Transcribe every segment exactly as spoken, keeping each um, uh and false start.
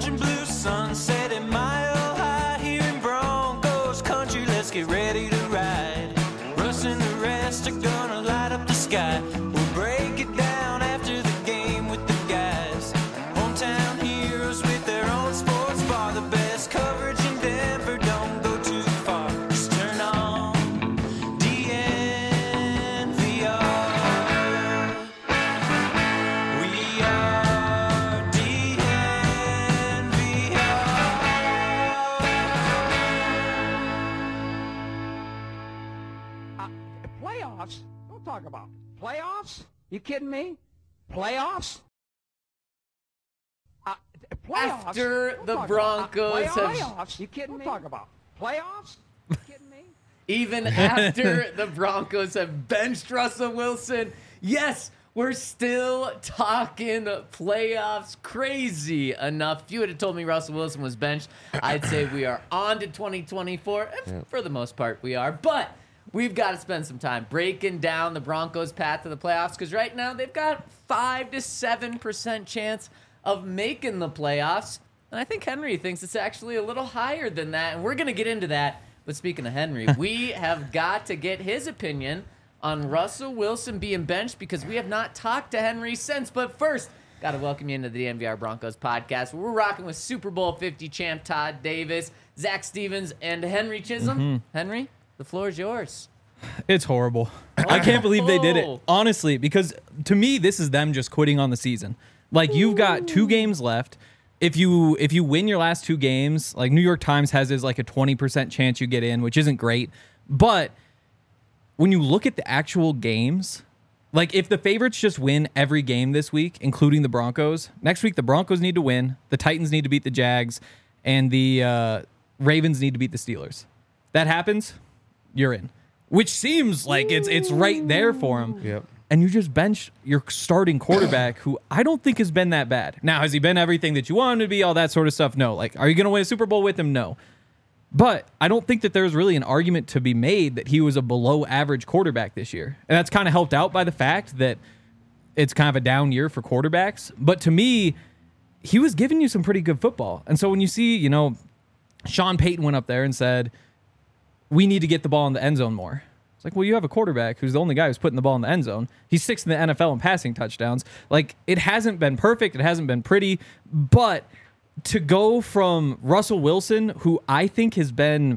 orange and blue sunset at Mile High here in Broncos country. Let's get ready to ride. Russ and the rest are gonna light up the sky. We'll break it down after the game with the guys. Hometown heroes with their own sports bar. The best coverage in Denver, don't go too far. Just turn on D N V R. We are D N V R. Uh, playoffs? Don't talk about playoffs. You kidding me? Playoffs? Uh, playoffs? After Don't the talk Broncos about, uh, have- playoffs? You kidding me? Talk about playoffs? You kidding me? Even after the Broncos have benched Russell Wilson, yes, we're still talking playoffs. Crazy enough. If you would have told me Russell Wilson was benched, I'd say we are on to twenty twenty-four. And for the most part, we are. But we've got to spend some time breaking down the Broncos' path to the playoffs, because right now they've got five to seven percent chance of making the playoffs. And I think Henry thinks it's actually a little higher than that. And we're going to get into that. But speaking of Henry, we have got to get his opinion on Russell Wilson being benched, because we have not talked to Henry since. But first, got to welcome you into the N V R Broncos podcast, where we're rocking with Super Bowl fifty champ Todd Davis, Zach Stevens, and Henry Chisholm. Mm-hmm. Henry, the floor is yours. It's horrible. I can't believe they did it. Oh. Honestly, because to me, this is them just quitting on the season. Like, you've got two games left. If you if you win your last two games, like New York Times has is like a twenty percent chance you get in, which isn't great. But when you look at the actual games, like if the favorites just win every game this week, including the Broncos, next week the Broncos need to win, the Titans need to beat the Jags, and the uh, Ravens need to beat the Steelers. That happens, you're in. Which seems like it's it's right there for them. Yep. And you just bench your starting quarterback, who I don't think has been that bad. Now, has he been everything that you want him to be, all that sort of stuff? No. Like, are you going to win a Super Bowl with him? No. But I don't think that there's really an argument to be made that he was a below average quarterback this year. And that's kind of helped out by the fact that it's kind of a down year for quarterbacks. But to me, he was giving you some pretty good football. And so when you see, you know, Sean Payton went up there and said, we need to get the ball in the end zone more. It's like, well, you have a quarterback who's the only guy who's putting the ball in the end zone. He's sixth in the N F L in passing touchdowns. Like, it hasn't been perfect. It hasn't been pretty. But to go from Russell Wilson, who I think has been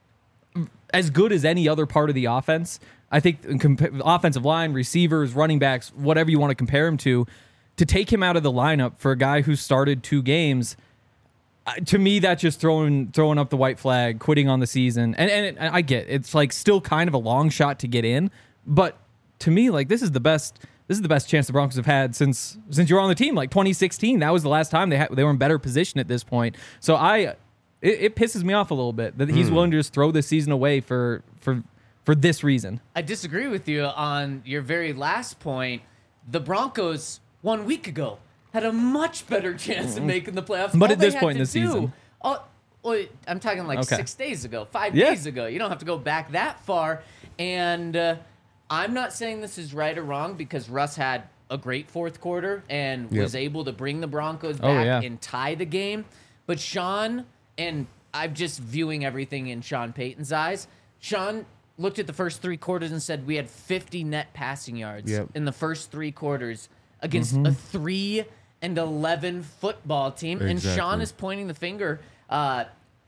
as good as any other part of the offense, I think comp- offensive line, receivers, running backs, whatever you want to compare him to, to take him out of the lineup for a guy who started two games, Uh, to me, that's just throwing throwing up the white flag, quitting on the season. And and, it, and I get it's like still kind of a long shot to get in, but to me, like this is the best this is the best chance the Broncos have had since since you were on the team. Like twenty sixteen, that was the last time they had they were in better position at this point. So I it, it pisses me off a little bit that he's mm. willing to just throw this season away for for for this reason. I disagree with you on your very last point. The Broncos one week ago had a much better chance of making the playoffs. But All at this they point in had the to do- season. Oh, well, I'm talking like Okay. six days ago, five Yeah. days ago. You don't have to go back that far. And uh, I'm not saying this is right or wrong, because Russ had a great fourth quarter and Yep. was able to bring the Broncos Oh, back yeah. and tie the game. But Sean, and I'm just viewing everything in Sean Payton's eyes, Sean looked at the first three quarters and said we had fifty net passing yards Yep. in the first three quarters against Mm-hmm. a three and eleven football team. And Sean Exactly. is pointing the finger uh,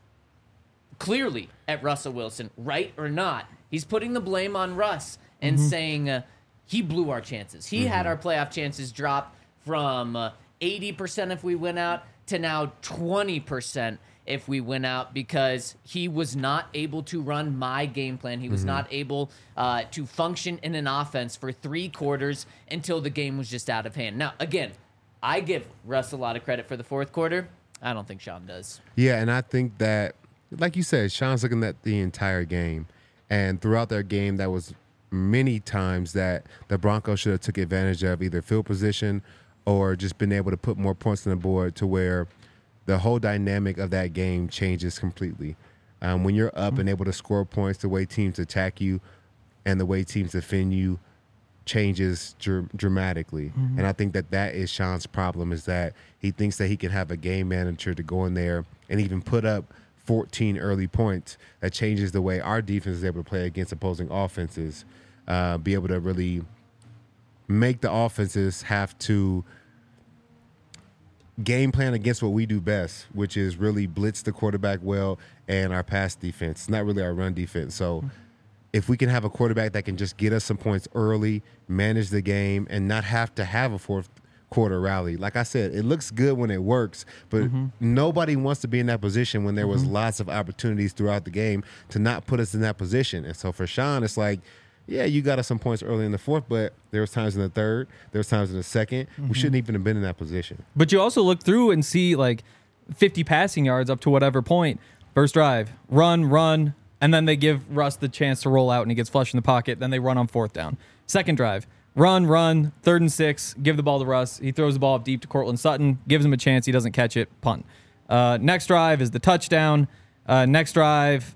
clearly at Russell Wilson, right or not. He's putting the blame on Russ and Mm-hmm. saying uh, he blew our chances. He had our playoff chances drop from uh, eighty percent if we went out to now twenty percent if we went out, because he was not able to run my game plan. He was not able uh, to function in an offense for three quarters until the game was just out of hand. Now, again, I give Russ a lot of credit for the fourth quarter. I don't think Sean does. Yeah, and I think that, like you said, Sean's looking at the entire game. And throughout their game, that was many times that the Broncos should have took advantage of either field position or just been able to put more points on the board to where the whole dynamic of that game changes completely. Um, when you're up and able to score points, the way teams attack you and the way teams defend you, changes dr- dramatically. Mm-hmm. And I think that that is Sean's problem, is that he thinks that he can have a game manager to go in there and even put up fourteen early points that changes the way our defense is able to play against opposing offenses, uh, be able to really make the offenses have to game plan against what we do best, which is really blitz the quarterback well and our pass defense. It's not really our run defense. So mm-hmm. if we can have a quarterback that can just get us some points early, manage the game, and not have to have a fourth quarter rally. Like I said, it looks good when it works, but mm-hmm. nobody wants to be in that position when there was mm-hmm. lots of opportunities throughout the game to not put us in that position. And so for Sean, it's like, yeah, you got us some points early in the fourth, but there was times in the third, there was times in the second. Mm-hmm. We shouldn't even have been in that position. But you also look through and see like fifty passing yards up to whatever point. First drive, run, run, and then they give Russ the chance to roll out and he gets flushed in the pocket. Then they run on fourth down. Second drive, run, run, third and six, give the ball to Russ. He throws the ball up deep to Cortland Sutton, gives him a chance. He doesn't catch it, punt. Uh, next drive is the touchdown. Uh, next drive,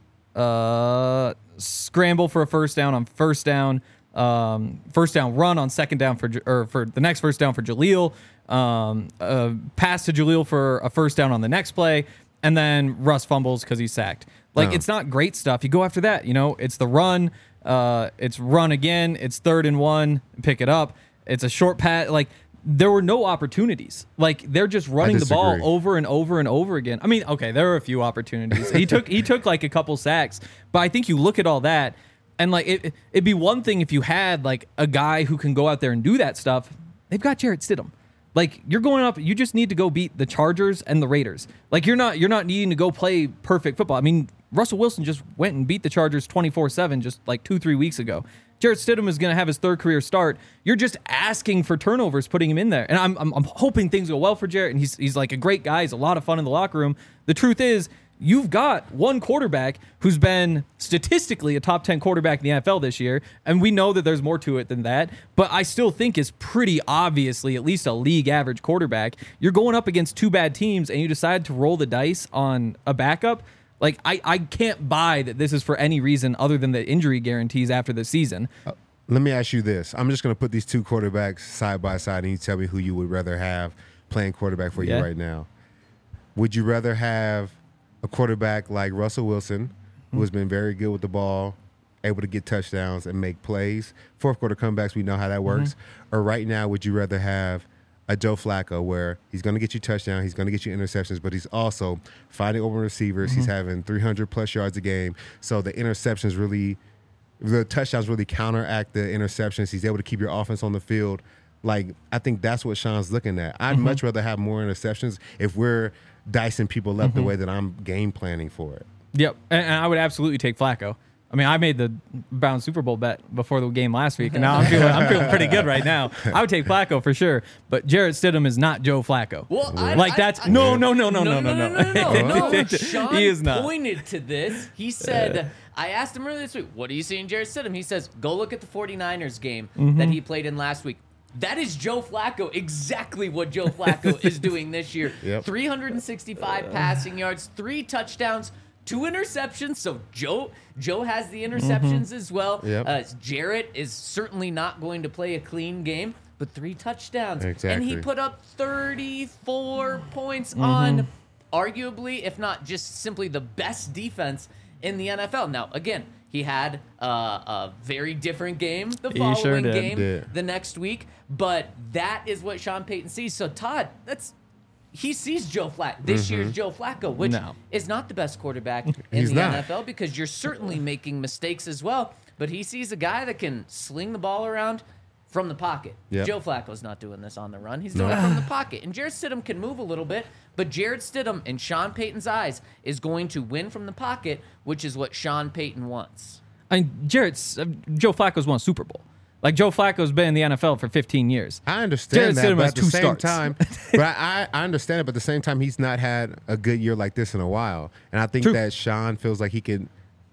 uh, scramble for a first down on first down. Um, first down run on second down for or for the next first down for Jaleel. Um, uh, pass to Jaleel for a first down on the next play, and then Russ fumbles because he's sacked. Like, oh. It's not great stuff. You go after that, you know, it's the run, uh, it's run again, it's third and one, pick it up. It's a short pass. Like, there were no opportunities. Like, they're just running the ball over and over and over again. I mean, okay, there were a few opportunities. He took he took like a couple sacks, but I think you look at all that, and like it, it'd be one thing if you had like a guy who can go out there and do that stuff. They've got Jarrett Stidham. Like, you're going up, you just need to go beat the Chargers and the Raiders. Like, you're not you're not needing to go play perfect football. I mean, Russell Wilson just went and beat the Chargers twenty-four seven just like two, three weeks ago. Jarrett Stidham is going to have his third career start. You're just asking for turnovers, putting him in there. And I'm, I'm I'm hoping things go well for Jarrett, and he's he's like a great guy. He's a lot of fun in the locker room. The truth is, you've got one quarterback who's been statistically a top ten quarterback in the N F L this year, and we know that there's more to it than that, but I still think is pretty obviously at least a league average quarterback. You're going up against two bad teams, and you decide to roll the dice on a backup. Like, I, I can't buy that this is for any reason other than the injury guarantees after the season. Uh, let me ask you this. I'm just going to put these two quarterbacks side by side, and you tell me who you would rather have playing quarterback for yeah. you right now. Would you rather have a quarterback like Russell Wilson, who mm-hmm. has been very good with the ball, able to get touchdowns and make plays, fourth quarter comebacks, we know how that works, mm-hmm. or right now would you rather have a Joe Flacco where he's going to get you touchdown, he's going to get you interceptions, but he's also finding open receivers. Mm-hmm. He's having three hundred plus yards a game. So the interceptions really, the touchdowns really counteract the interceptions. He's able to keep your offense on the field. Like, I think that's what Sean's looking at. I'd mm-hmm. much rather have more interceptions if we're dicing people up mm-hmm. the way that I'm game planning for it. Yep. And, and I would absolutely take Flacco. I mean, I made the Browns Super Bowl bet before the game last week, and now I'm feeling I'm feeling pretty good right now. I would take Flacco for sure, but Jarrett Stidham is not Joe Flacco. Well, I, like I, that's I, no, no, no, no, no, no, no, no, no, no. no. Sean he is not. pointed to this. He said, I asked him earlier this week, what do you see in Jarrett Stidham? He says, go look at the 49ers game mm-hmm. that he played in last week. That is Joe Flacco, exactly what Joe Flacco is doing this year. Yep. three hundred sixty-five passing yards, three touchdowns, two interceptions. So Joe Joe has the interceptions mm-hmm. as well. Yep. Uh, Jarrett is certainly not going to play a clean game, but three touchdowns. Exactly. And he put up thirty-four points mm-hmm. on arguably, if not just simply the best defense in the N F L. Now, again, he had uh, a very different game the following sure game did. the next week, but that is what Sean Payton sees. So, Todd, that's he sees Joe Flacco, this mm-hmm. year's Joe Flacco, which no. is not the best quarterback in He's the not. N F L because you're certainly making mistakes as well, but he sees a guy that can sling the ball around from the pocket. Yep. Joe Flacco's not doing this on the run. He's doing no. it from the pocket. And Jarrett Stidham can move a little bit, but Jarrett Stidham, in Sean Payton's eyes, is going to win from the pocket, which is what Sean Payton wants. I mean, Jarrett's, uh, Joe Flacco's won a Super Bowl. Like, Joe Flacco's been in the N F L for fifteen years. I understand Jarrett that, Stidham but has at the two same starts. time, but I, I understand it, but at the same time, he's not had a good year like this in a while. And I think True. that Sean feels like he can,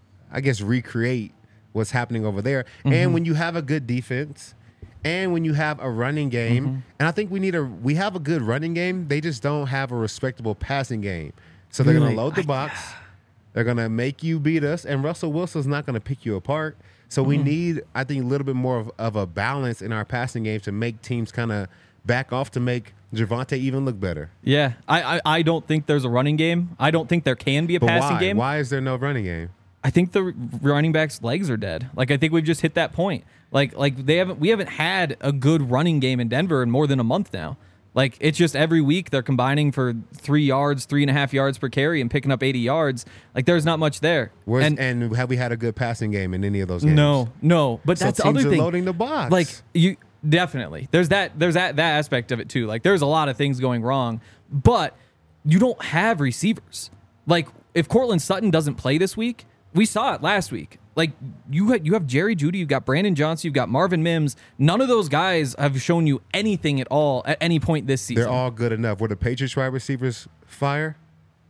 I guess, recreate what's happening over there. Mm-hmm. And when you have a good defense, and when you have a running game, mm-hmm. and I think we need a, we have a good running game, they just don't have a respectable passing game. So they're Really? going to load the box. They're going to make you beat us, and Russell Wilson's not going to pick you apart. So we need, I think, a little bit more of, of a balance in our passing game to make teams kind of back off to make Javonte even look better. Yeah, I, I I don't think there's a running game. I don't think there can be a But passing why? game. Why is there no running game? I think the running backs' legs are dead. Like I think we've just hit that point. Like like they haven't we haven't had a good running game in Denver in more than a month now. Like it's just every week they're combining for three yards, three and a half yards per carry, and picking up eighty yards. Like there's not much there. Where's, and and have we had a good passing game in any of those games? no, no. But So that's the teams other are thing. loading the box. Like you definitely there's that there's that that aspect of it too. Like there's a lot of things going wrong, but you don't have receivers. Like if Cortland Sutton doesn't play this week, we saw it last week. Like you had, you have Jerry Jeudy, you've got Brandon Johnson, you've got Marvin Mims. None of those guys have shown you anything at all at any point this season. they're all good enough. Were the Patriots wide receivers fire?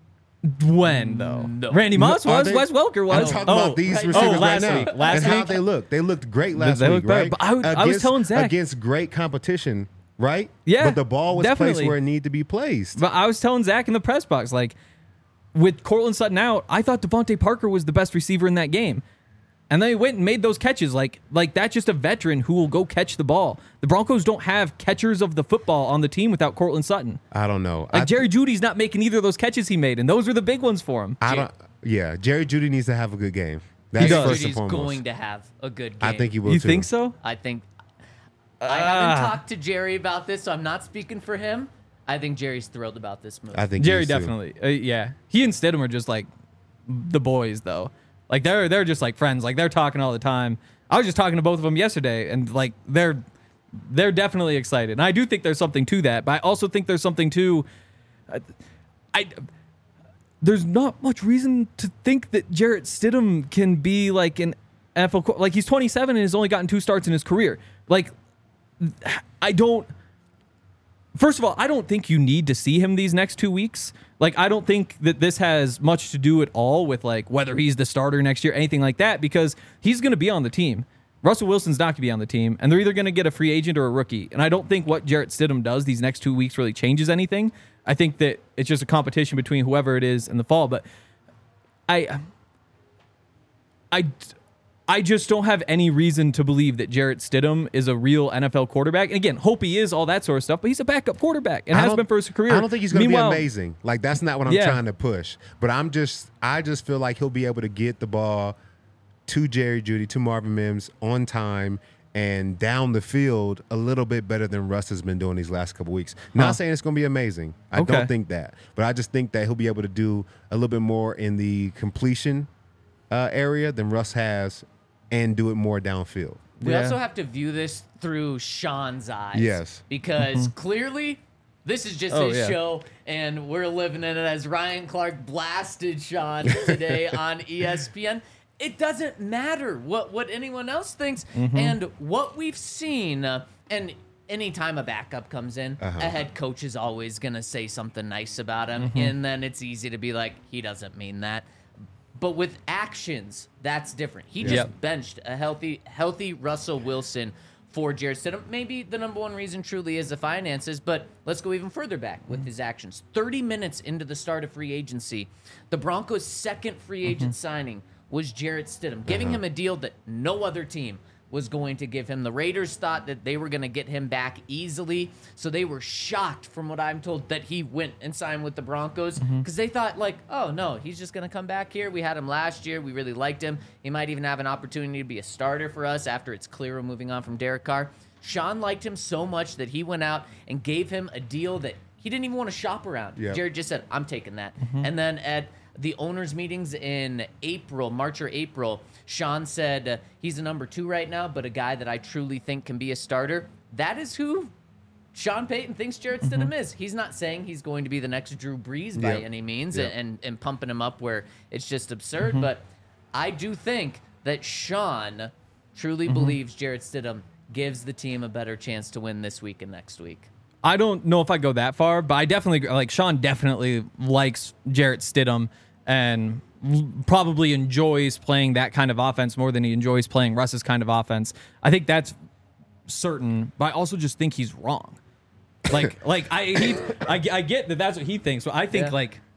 when though? No. Randy Moss Are was, they- Wes Welker I'm was. talking oh, about these right. receivers Oh, last right now. week. Last and how week? they looked. They looked great last they week, looked better. right? But I would- I was telling Zach- against great competition, right? Yeah, But the ball was definitely. placed where it needed to be placed. But I was telling Zach in the press box, like, with Cortland Sutton out, I thought Devontae Parker was the best receiver in that game. And then he went and made those catches. Like, like that's just a veteran who will go catch the ball. The Broncos don't have catchers of the football on the team without Cortland Sutton. I don't know. Like, I, Jerry Judy's not making either of those catches he made, and those were the big ones for him. I don't. Yeah, Jerry Jeudy needs to have a good game. That's does. first and Judy's foremost. going to have a good game. I think he will You too. think so? I think. I haven't Ah. talked to Jerry about this, so I'm not speaking for him. I think Jerry's thrilled about this move. I think he Jerry is too. definitely. Uh, yeah. He and Stidham are just like the boys, though. Like, they're they're just like friends. Like, they're talking all the time. I was just talking to both of them yesterday, and, like, they're they're definitely excited. And I do think there's something to that, but I also think there's something to. Uh, I. There's not much reason to think that Jarrett Stidham can be like an N F L co- like he's twenty-seven and has only gotten two starts in his career. Like, I don't. First of all, I don't think you need to see him these next two weeks. Like, I don't think that this has much to do at all with like whether he's the starter next year, anything like that, because he's going to be on the team. Russell Wilson's not going to be on the team, and they're either going to get a free agent or a rookie. And I don't think what Jarrett Stidham does these next two weeks really changes anything. I think that it's just a competition between whoever it is in the fall. But I, I, I just don't have any reason to believe that Jarrett Stidham is a real N F L quarterback. And again, hope he is, all that sort of stuff, but he's a backup quarterback and I has don't- been for his career. I don't think he's going to be Meanwhile- amazing. Like, that's not what I'm Yeah. trying to push. But I'm just, I just feel like he'll be able to get the ball to Jerry Jeudy, to Marvin Mims on time and down the field a little bit better than Russ has been doing these last couple weeks. Not Huh. saying it's going to be amazing. I Okay. don't think that. But I just think that he'll be able to do a little bit more in the completion uh, area than Russ has and do it more downfield. We Yeah. also have to view this through Sean's eyes. Yes. Because clearly this is just Oh, his yeah. show, and we're living in it as Ryan Clark blasted Sean today on E S P N. It doesn't matter what, what anyone else thinks. And what we've seen, uh, and anytime a backup comes in, Uh-huh. a head coach is always going to say something nice about him. And then it's easy to be like, he doesn't mean that. But with actions, that's different. He just Yep. benched a healthy, healthy Russell Wilson for Jarrett Stidham. Maybe the number one reason truly is the finances, but let's go even further back with his actions. thirty minutes into the start of free agency, the Broncos' second free agent signing was Jarrett Stidham, giving him a deal that no other team was going to give him. The Raiders thought that they were going to get him back easily, so they were shocked, from what I'm told, that he went and signed with the Broncos, because they thought, like, oh, no, he's just going to come back here. We had him last year. We really liked him. He might even have an opportunity to be a starter for us after it's clear we're moving on from Derek Carr. Sean liked him so much that he went out and gave him a deal that he didn't even want to shop around. Yep. Jared just said, I'm taking that. And then at the owners' meetings in April, March or April, Sean said uh, he's a number two right now, but a guy that I truly think can be a starter. That is who Sean Payton thinks Jarrett Stidham is. He's not saying he's going to be the next Drew Brees by Yep. any means Yep. and, and pumping him up where it's just absurd, but I do think that Sean truly believes Jarrett Stidham gives the team a better chance to win this week and next week. I don't know if I go that far, but I definitely like Sean definitely likes Jarrett Stidham and l- probably enjoys playing that kind of offense more than he enjoys playing Russ's kind of offense. I think that's certain, but I also just think he's wrong. Like, like I, he, I, I get that that's what he thinks, but I think Yeah. like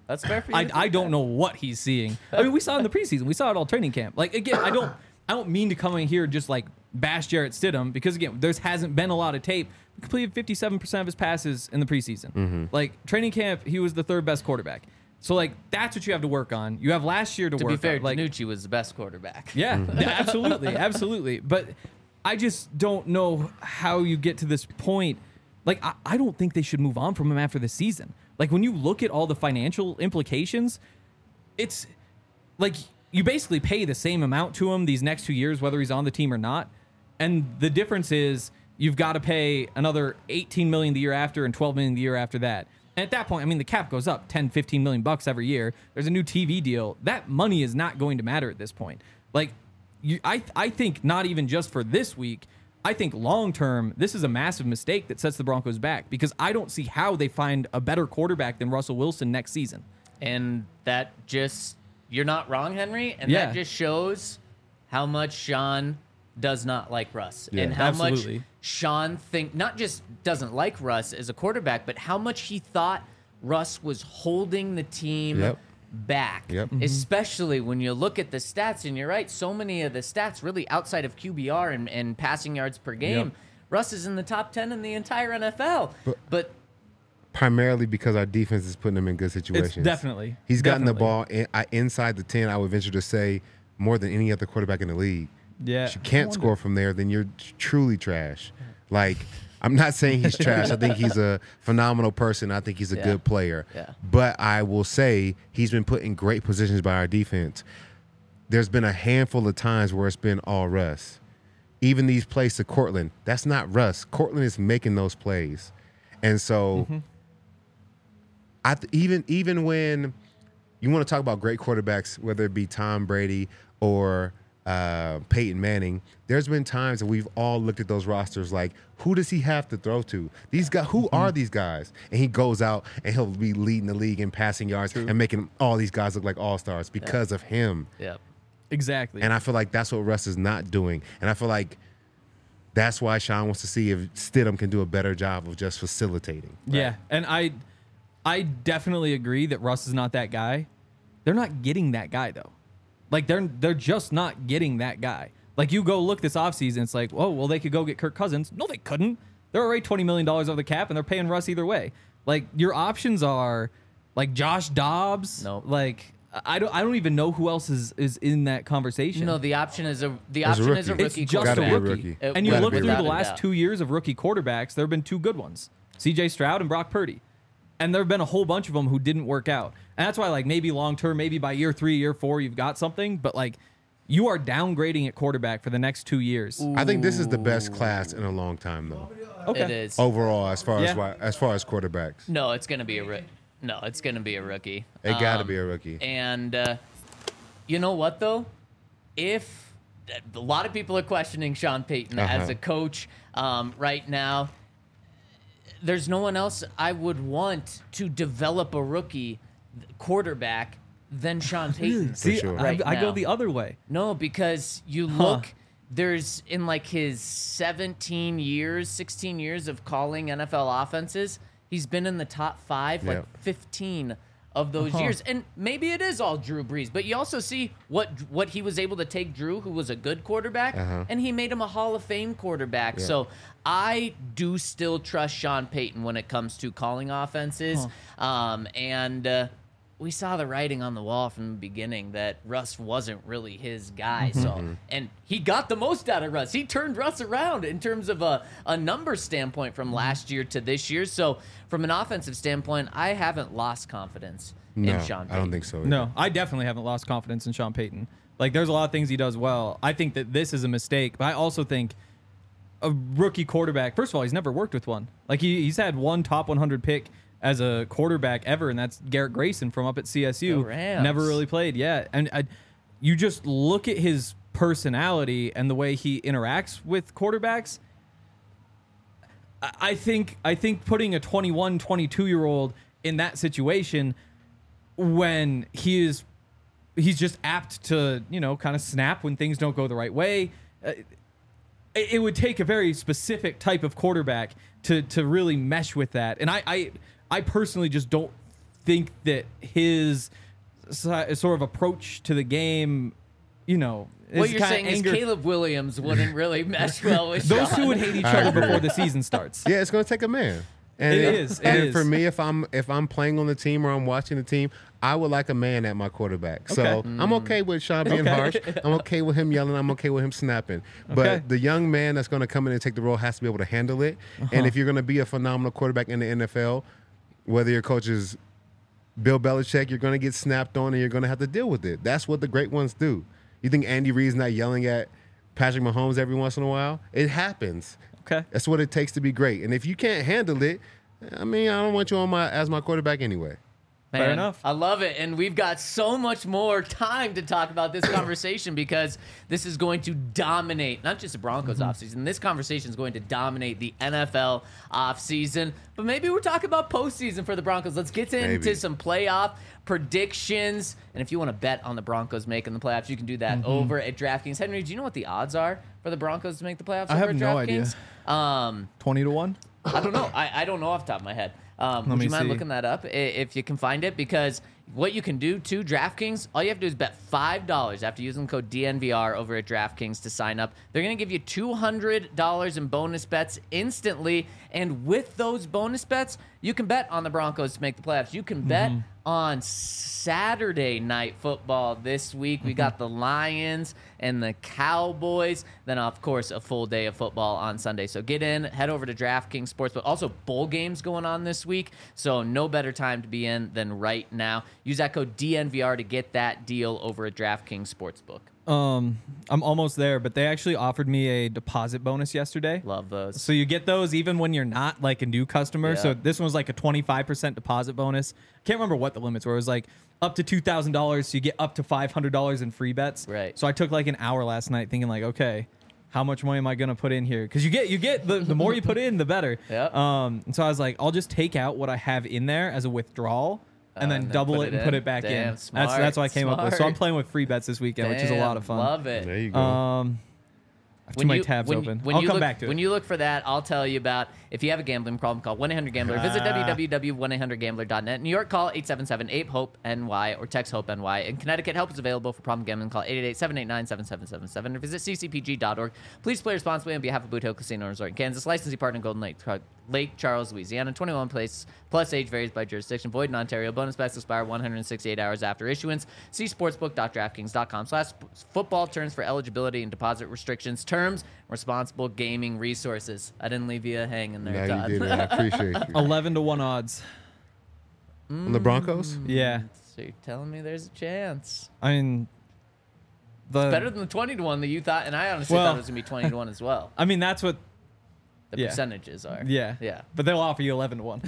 That's fair for you. I, to I think don't that. know what he's seeing. I mean, we saw it in the preseason. We saw it all training camp. Like again, I don't I don't mean to come in here and just like bash Jarrett Stidham because again, there hasn't been a lot of tape. He completed fifty-seven percent of his passes in the preseason. Mm-hmm. Like training camp, he was the third best quarterback. So like that's what you have to work on. You have last year to, To work be fair, on. Like, Danucci was the best quarterback. yeah, absolutely, absolutely. But I just don't know how you get to this point. Like, I, I don't think they should move on from him after the season. Like, when you look at all the financial implications, it's like you basically pay the same amount to him these next two years, whether he's on the team or not. And the difference is you've got to pay another eighteen million dollars the year after and twelve million dollars the year after that. And at that point, I mean, the cap goes up ten, fifteen million bucks every year. There's a new T V deal. That money is not going to matter at this point. Like, you, I, I think not even just for this week. I think long term, this is a massive mistake that sets the Broncos back because I don't see how they find a better quarterback than Russell Wilson next season. And that just, you're not wrong, Henry. And Yeah. that just shows how much Sean does not like Russ. Yeah. And how Absolutely. much Sean think not just doesn't like Russ as a quarterback, but how much he thought Russ was holding the team Yep. back. Yep. Mm-hmm. Especially when you look at the stats, and you're right, so many of the stats really outside of Q B R and, and passing yards per game, Yep. Russ is in the top ten in the entire N F L. But- but Primarily because our defense is putting him in good situations. It's definitely. He's gotten the definitely. ball in, I, inside the ten, I would venture to say, more than any other quarterback in the league. Yeah. If you can't score from there, then you're truly trash. Like, I'm not saying he's trash. I think he's a phenomenal person. I think he's a Yeah. good player. Yeah. But I will say he's been put in great positions by our defense. There's been a handful of times where it's been all Russ. Even these plays to Cortland, that's not Russ. Cortland is making those plays. And so Mm-hmm. I th- even even when you want to talk about great quarterbacks, whether it be Tom Brady or uh, Peyton Manning, there's been times that we've all looked at those rosters like, who does he have to throw to? These guys, who Mm-hmm. are these guys? And he goes out and he'll be leading the league in passing yards and making all these guys look like all stars because of him. yeah. Exactly. And I feel like that's what Russ is not doing. And I feel like that's why Sean wants to see if Stidham can do a better job of just facilitating. Yeah, and I, I definitely agree that Russ is not that guy. They're not getting that guy though. Like they're they're just not getting that guy. Like you go look this offseason, it's like, oh well, they could go get Kirk Cousins. No, they couldn't. They're already twenty million dollars over the cap, and they're paying Russ either way. Like your options are, like Josh Dobbs. Nope. Like I don't I don't even know who else is is in that conversation. No, the option is a the As a option is a rookie. rookie. It's just Gotta a be a rookie. rookie. It And you Gotta look be a through the rookie. last doubt. two years of rookie quarterbacks, there have been two good ones. C J Stroud and Brock Purdy. And there have been a whole bunch of them who didn't work out. And that's why, like, maybe long term, maybe by year three, year four, you've got something. But, like, you are downgrading at quarterback for the next two years. I think this is the best class in a long time, though. Okay. It is. Overall, as far as Yeah. why, as far as quarterbacks, No, it's gonna be a rookie. No, it's gonna be a rookie. it got to Um, be a rookie. And uh, you know what though? If a lot of people are questioning Sean Payton Uh-huh. as a coach um, right now, there's no one else I would want to develop a rookie quarterback than Sean Payton. See, sure. I, right I go now. the other way. No, because you look, there's in like his seventeen years, sixteen years of calling N F L offenses, he's been in the top five, like Yep. fifteen of those Uh-huh. years. And maybe it is all Drew Brees, but you also see what what he was able to take Drew, who was a good quarterback, Uh-huh. and he made him a Hall of Fame quarterback. So I do still trust Sean Payton when it comes to calling offenses. Um, and uh, we saw the writing on the wall from the beginning that Russ wasn't really his guy. So, and he got the most out of Russ. He turned Russ around in terms of a, a number standpoint from last year to this year. So, from an offensive standpoint, I haven't lost confidence No, in Sean Payton. I don't think so. either. No, I definitely haven't lost confidence in Sean Payton. Like, there's a lot of things he does well. I think that this is a mistake, but I also think a rookie quarterback, first of all, he's never worked with one. Like, he, he's had one top one hundred pick as a quarterback ever, and that's Garrett Grayson from up at C S U. The Rams. Never really played, yeah. And I, you just look at his personality and the way he interacts with quarterbacks. I- I think I think putting a twenty-one, twenty-two-year-old in that situation when he is he's just apt to, you know, kind of snap when things don't go the right way. Uh, it, it would take a very specific type of quarterback to to really mesh with that. And I I, I personally just don't think that his si- sort of approach to the game, you know, What is you're kinda saying anger- is Caleb Williams wouldn't really mesh well with those Sean. two would hate each I other agree. before the season starts. Yeah, it's going to take a man. And It is, it and is. for me, if I'm if I'm playing on the team or I'm watching the team, I would like a man at my quarterback. So Okay. I'm okay with Sean being Okay. harsh. I'm okay with him yelling. I'm okay with him snapping. But Okay. the young man that's going to come in and take the role has to be able to handle it. Uh-huh. And if you're going to be a phenomenal quarterback in the N F L, whether your coach is Bill Belichick, you're going to get snapped on and you're going to have to deal with it. That's what the great ones do. You think Andy Reid's not yelling at Patrick Mahomes every once in a while? It happens. Okay. That's what it takes to be great. And if you can't handle it, I mean, I don't want you on my as my quarterback anyway. Man, Fair enough. I love it. And we've got so much more time to talk about this conversation because this is going to dominate not just the Broncos Mm-hmm. offseason. This conversation is going to dominate the N F L offseason. But maybe we're talking about postseason for the Broncos. Let's get into Maybe. some playoff predictions. And if you want to bet on the Broncos making the playoffs, you can do that Mm-hmm. over at DraftKings. Henry, do you know what the odds are for the Broncos to make the playoffs I over have at no idea. DraftKings? Um, twenty to one. I don't know. I, I don't know off the top of my head. Um, would me you mind see. looking that up i- if you can find it? Because what you can do to DraftKings, all you have to do is bet five dollars after using the code D N V R over at DraftKings to sign up. They're going to give you two hundred dollars in bonus bets instantly. And with those bonus bets, you can bet on the Broncos to make the playoffs. You can bet on Saturday night football this week. We got the Lions and the Cowboys. Then, of course, a full day of football on Sunday. So get in, head over to DraftKings Sportsbook. Also, bowl games going on this week. So no better time to be in than right now. Use that code D N V R to get that deal over at DraftKings Sportsbook. Um, I'm almost there, but they actually offered me a deposit bonus yesterday. Love those. So you get those even when you're not like a new customer. Yeah. So this one was like a twenty-five percent deposit bonus. Can't remember what the limits were. It was like up to two thousand dollars. So you get up to five hundred dollars in free bets. Right. So I took like an hour last night thinking like, okay, how much money am I going to put in here? Because you get, you get the, the more you put in, the better. Yep. Um, and so I was like, I'll just take out what I have in there as a withdrawal. And Uh, then and then double put it it and put in? it back Damn, in. smart, that's that's what I came up with. So I'm smart. playing with free bets this weekend, which is a lot of Damn, fun. Love it. There you go. Um, I have too many tabs when, open. When I'll you come look, back to when it. you look for that, I'll tell you about if you have a gambling problem, call one eight hundred gambler. Visit w w w dot one eight hundred gambler dot net. New York, call eight seven seven eight hope N Y or text HOPE-N Y. In Connecticut, help is available for problem gambling. Call eight eight eight, seven eight nine, seven seven seven seven or visit c c p g dot org. Please play responsibly on behalf of Boot Hill Casino and Resort in Kansas. Licensee partner Golden Lake, Lake Charles, Louisiana. twenty-one place plus age varies by jurisdiction. Void in Ontario. Bonus bets expire one hundred sixty-eight hours after issuance. See sportsbook dot draftkings dot com slash football terms for eligibility and deposit restrictions, terms, responsible gaming resources. I didn't leave you hanging there, Now Todd. you did it. I appreciate you. eleven to one odds. On the Broncos? Yeah. So you're telling me there's a chance. I mean, the Better than the twenty to one that you thought, and I honestly Well- thought it was going to be twenty to one as well. I mean, that's what. The Yeah. percentages are. Yeah. Yeah. But they'll offer you eleven to one.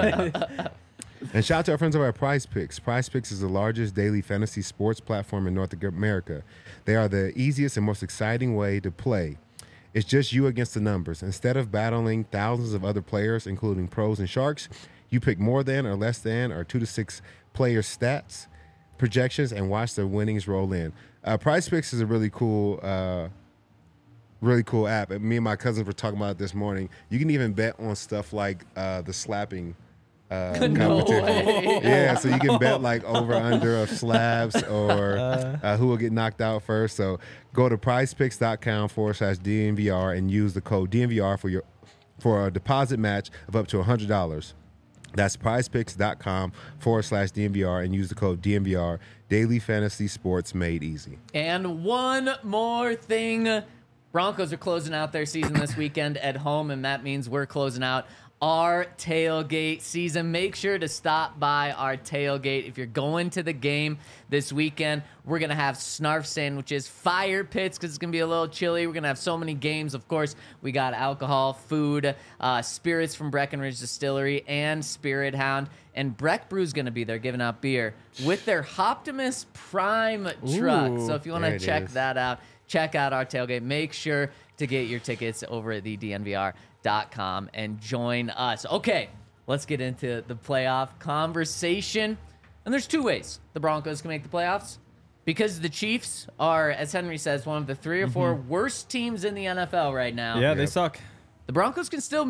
And shout out to our friends over at Prize Picks. Prize Picks is the largest daily fantasy sports platform in North America. They are the easiest and most exciting way to play. It's just you against the numbers. Instead of battling thousands of other players, including pros and sharks, you pick more than or less than or two to six player stats, projections, and watch the winnings roll in. Uh, Prize Picks is a really cool uh, really cool app. And me and my cousins were talking about it this morning. You can even bet on stuff like uh, the slapping uh, No competition. way. Yeah, so you can bet like over under of slabs or uh, who will get knocked out first. So go to prizepicks.com forward slash DNVR and use the code D N V R for your for a deposit match of up to one hundred dollars. That's prizepicks.com forward slash DNVR and use the code D N V R. Daily fantasy sports made easy. And one more thing. Broncos are closing out their season this weekend at home, and that means we're closing out our tailgate season. Make sure to stop by our tailgate. If you're going to the game this weekend, we're going to have snarf sandwiches, fire pits, because it's going to be a little chilly. We're going to have so many games. Of course, we got alcohol, food, uh, spirits from Breckenridge Distillery, and Spirit Hound. And Breck Brew's going to be there giving out beer with their Optimus Prime truck. Ooh, So if you want there to it check is. that out, check out our tailgate. Make sure to get your tickets over at the D N V R dot com and join us. Okay, let's get into the playoff conversation. And there's two ways the Broncos can make the playoffs. Because the Chiefs are, as Henry says, one of the three or four worst teams in the N F L right now. Yeah, they Yep. suck. The Broncos can still make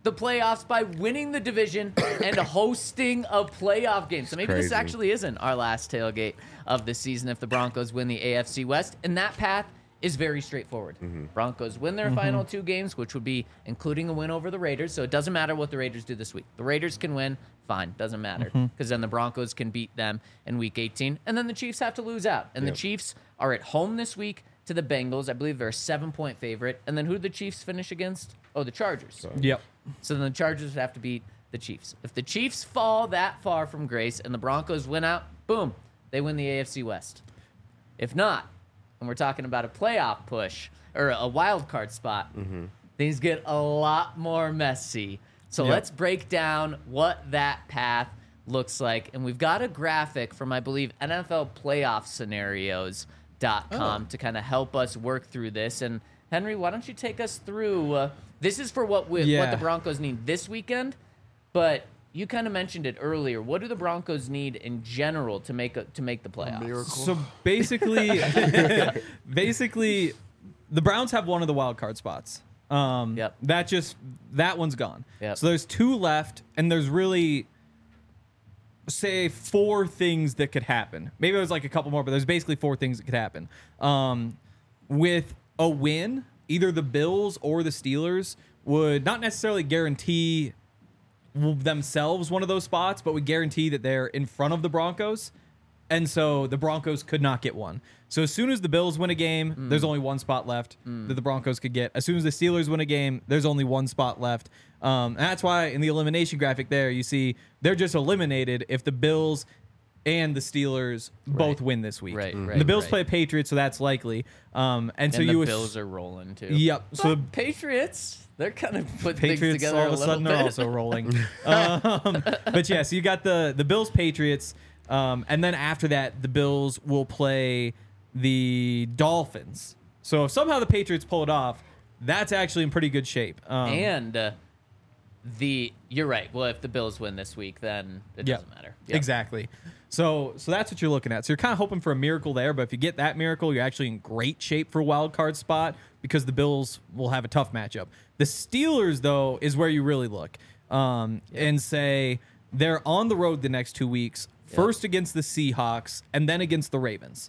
the playoffs by winning the division and hosting a playoff game. So maybe this crazy. actually isn't our last tailgate of the season if the Broncos win the A F C West. And that path is very straightforward. Mm-hmm. Broncos win their final two games, which would be including a win over the Raiders. So it doesn't matter what the Raiders do this week. The Raiders can win, fine, doesn't matter. Because then the Broncos can beat them in week eighteen. And then the Chiefs have to lose out. And Yep. the Chiefs are at home this week to the Bengals. I believe they're a seven-point favorite. And then who did the Chiefs finish against? Oh, the Chargers. Yep. So then the Chargers would have to beat the Chiefs. If the Chiefs fall that far from grace and the Broncos win out, boom, they win the A F C West. If not, and we're talking about a playoff push or a wild card spot, things get a lot more messy. So Yep. let's break down what that path looks like. And we've got a graphic from, I believe, N F L playoff scenarios dot com to kind of help us work through this. And Henry, why don't you take us through? Uh, this is for what we, what Yeah. the Broncos need this weekend, but you kind of mentioned it earlier. What do the Broncos need in general to make a, to make the playoffs? So basically, basically, the Browns have one of the wild card spots. Um, Yep. That just that one's gone. Yep. So there's two left, and there's really say four things that could happen. Maybe it was like a couple more, but there's basically four things that could happen. Um, with a win, either the Bills or the Steelers would not necessarily guarantee themselves one of those spots, but would guarantee that they're in front of the Broncos. And so the Broncos could not get one. So as soon as the Bills win a game, Mm. there's only one spot left that the Broncos could get. As soon as the Steelers win a game, there's only one spot left. Um, and that's why in the elimination graphic there, you see they're just eliminated if the Bills and the Steelers both win this week. Right, And right, the Bills right. play Patriots, so that's likely. Um, and, so and the you ass- Bills are rolling too. Yep. So So the Patriots, they're kind of putting things Patriots together all of a a little sudden bit. are also rolling. um, but yeah, so you got the the Bills Patriots, um, and then after that, the Bills will play the Dolphins. So if somehow the Patriots pull it off, that's actually in pretty good shape. Um, And uh, the you're right. Well, if the Bills win this week, then it Yep. doesn't matter. Yep. Exactly. So so that's what you're looking at. So you're kind of hoping for a miracle there, but if you get that miracle, you're actually in great shape for a wild card spot because the Bills will have a tough matchup. The Steelers, though, is where you really look um, and say they're on the road the next two weeks, first against the Seahawks and then against the Ravens.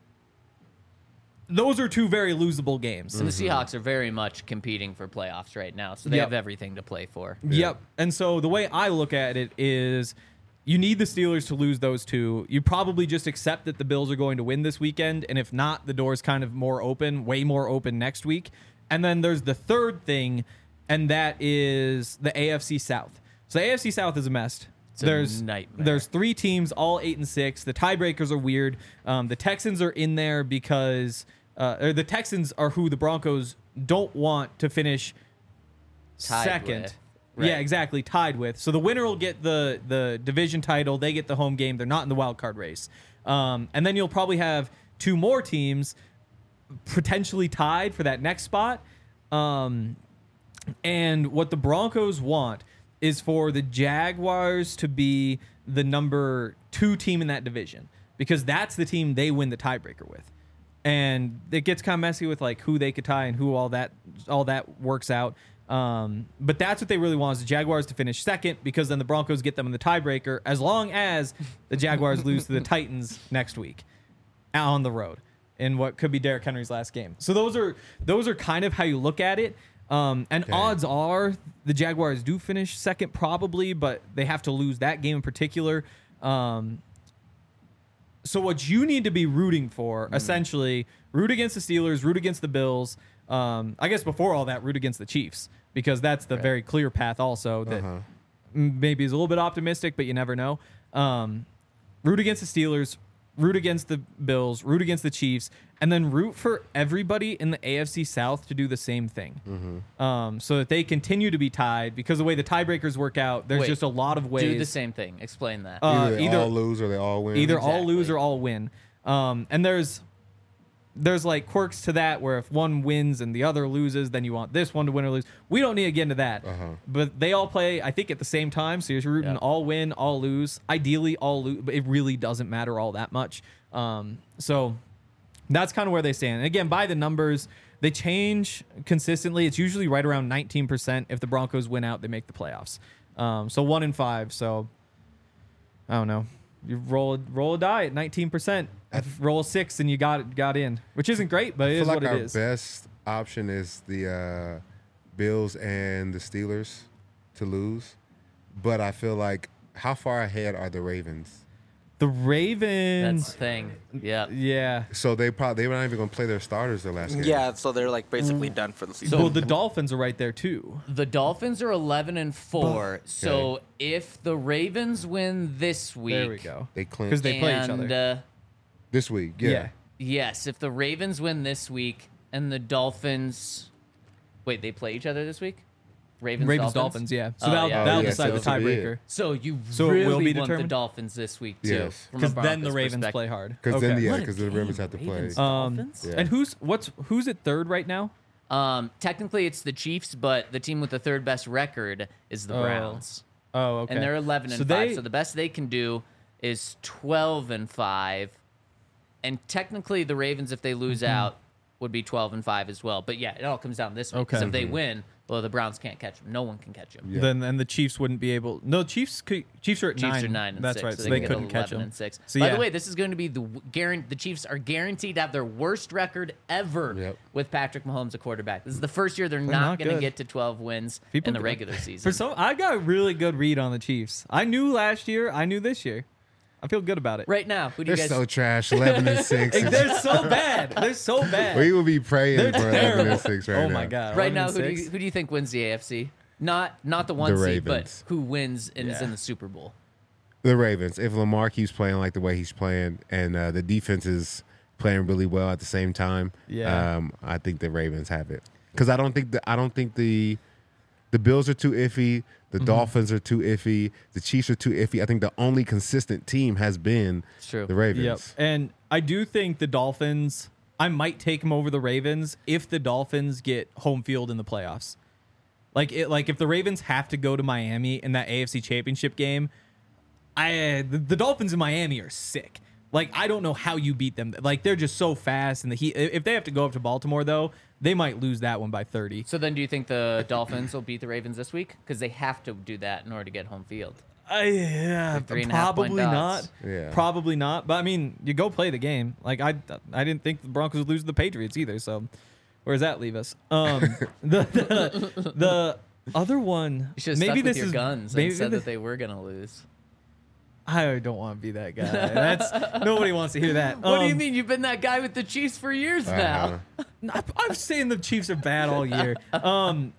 Those are two very losable games. And the Seahawks are very much competing for playoffs right now, so they Yep. have everything to play for. Yep. And so the way I look at it is you need the Steelers to lose those two. You probably just accept that the Bills are going to win this weekend. And if not, the door's kind of more open, way more open next week. And then there's the third thing, and that is the A F C South. So the A F C South is a mess. It's a there's nightmare. there's three teams, all eight and six. The tiebreakers are weird. Um, the Texans are in there because uh, or the Texans are who the Broncos don't want to finish Tied second. with. Yeah, Right. exactly. Tied with. So the winner will get the the division title. They get the home game. They're not in the wild card race. Um, and then you'll probably have two more teams potentially tied for that next spot. Um, and what the Broncos want is for the Jaguars to be the number two team in that division because that's the team they win the tiebreaker with. And it gets kind of messy with like who they could tie and who all that all that works out. Um, but that's what they really want is the Jaguars to finish second because then the Broncos get them in the tiebreaker as long as the Jaguars lose to the Titans next week on the road in what could be Derrick Henry's last game. So those are those are kind of how you look at it. Um, and Okay. odds are the Jaguars do finish second probably, but they have to lose that game in particular. Um, so what you need to be rooting for, essentially, root against the Steelers, root against the Bills. Um, I guess before all that, root against the Chiefs because that's the very clear path also that Uh-huh. m- maybe is a little bit optimistic, but you never know. Um, root against the Steelers, root against the Bills, root against the Chiefs, and then root for everybody in the A F C South to do the same thing. Mm-hmm. Um, so that they continue to be tied because the way the tiebreakers work out, there's Wait, just a lot of ways. Do the same thing. Explain that. Uh, either they either- all lose or they all win. Either all Exactly. lose or all win. Um, and there's there's like quirks to that where if one wins and the other loses, then you want this one to win or lose. We don't need to get into that. Uh-huh. But they all play, I think, at the same time. So you're rooting Yep. all win, all lose. Ideally, all lose, but it really doesn't matter all that much. Um, so that's kind of where they stand. And again, by the numbers, They change consistently. It's usually right around nineteen percent. If the Broncos win out, they make the playoffs. Um, so one in five. So I don't know. You roll roll a die at nineteen percent. Roll a six and you got got in, which isn't great, but I it feel is like what our it is. best option is the uh, Bills and the Steelers to lose, but I feel like how far ahead are the Ravens? The That's Ravens, the thing. Yeah. yeah. So they probably they were not even going to play their starters the last game. Yeah, so they're like basically Mm. done for the season. well, the Dolphins are right there too. The Dolphins are eleven and four. So if the Ravens win this week, There we go. they Because clinched they play each other. and, Uh, this week. Yeah. Yeah. yes, if the Ravens win this week and the Dolphins, wait, they play each other this week. Ravens, Ravens, Dolphins. Dolphins, yeah. So Oh, that'll, yeah. that'll Oh, yeah, decide so the this will be tiebreaker. it. So you So it really will be want the determined? Dolphins this week too. Yes. from a Because then the Broncos Ravens perspective. play hard. Because then Okay. yeah, What a because the game, Ravens have to play. Ravens, Um, Dolphins? Yeah. And who's what's who's at third right now? Um, technically it's the Chiefs, but the team with the third best record is the Oh. Browns, Oh, okay. and they're eleven and so five. They, So the best they can do is twelve and five, and technically the Ravens, if they lose out, would be twelve and five as well. But yeah, it all comes down this way. Because Okay. if they win, well, the Browns can't catch them. No one can catch them. Yeah. then and the Chiefs wouldn't be able. No, Chiefs could, Chiefs are at Chiefs nine. are nine and That's six, right. so So they, they can couldn't get catch eleven them. and six. So, By yeah. the way, this is going to be the guarantee. The Chiefs are guaranteed to have their worst record ever Yep. with Patrick Mahomes, a quarterback. This is the first year they're, They're not, not going to good. get to twelve wins People in the go- regular season. For some, I got a really good read on the Chiefs. I knew last year. I knew this year. I feel good about it. right now, who do They're you guys? so trash. Eleven and six. Like, they're so bad. They're so bad. We will be praying They're for eleven terrible. and six right oh now. my god. right eleven now, and who do, six? you, who do you think wins the A F C? Not not the one The seed, but Ravens. who wins and is Yeah. in the Super Bowl. The Ravens. If Lamar keeps playing like the way he's playing, and uh, the defense is playing really well at the same time, Yeah. um, I think the Ravens have it. Because I don't think the I don't think the the Bills are too iffy. The Mm-hmm. Dolphins are too iffy. The Chiefs are too iffy. I think the only consistent team has been It's true. the Ravens. Yep. And I do think the Dolphins. I might take them over the Ravens if the Dolphins get home field in the playoffs. Like it, like if the Ravens have to go to Miami in that A F C Championship game, I the, the Dolphins in Miami are sick. Like I don't know how you beat them. Like they're just so fast, and the heat. If they have to go up to Baltimore though, they might lose that one by thirty. So then, do you think the Dolphins will beat the Ravens this week? Because they have to do that in order to get home field. I, yeah, Like three and a half point probably not. dots. Yeah. Probably not. But I mean, you go play the game. Like I, I didn't think the Broncos would lose to the Patriots either. So, where does that leave us? Um, the, the the other one. You should have maybe stuck with this your is guns maybe and said the- that they were going to lose. I don't want to be that guy. That's nobody wants to hear that. What do you Um, mean? You've been that guy with the Chiefs for years Uh-huh. now. I- I'm saying the Chiefs are bad all year. Um,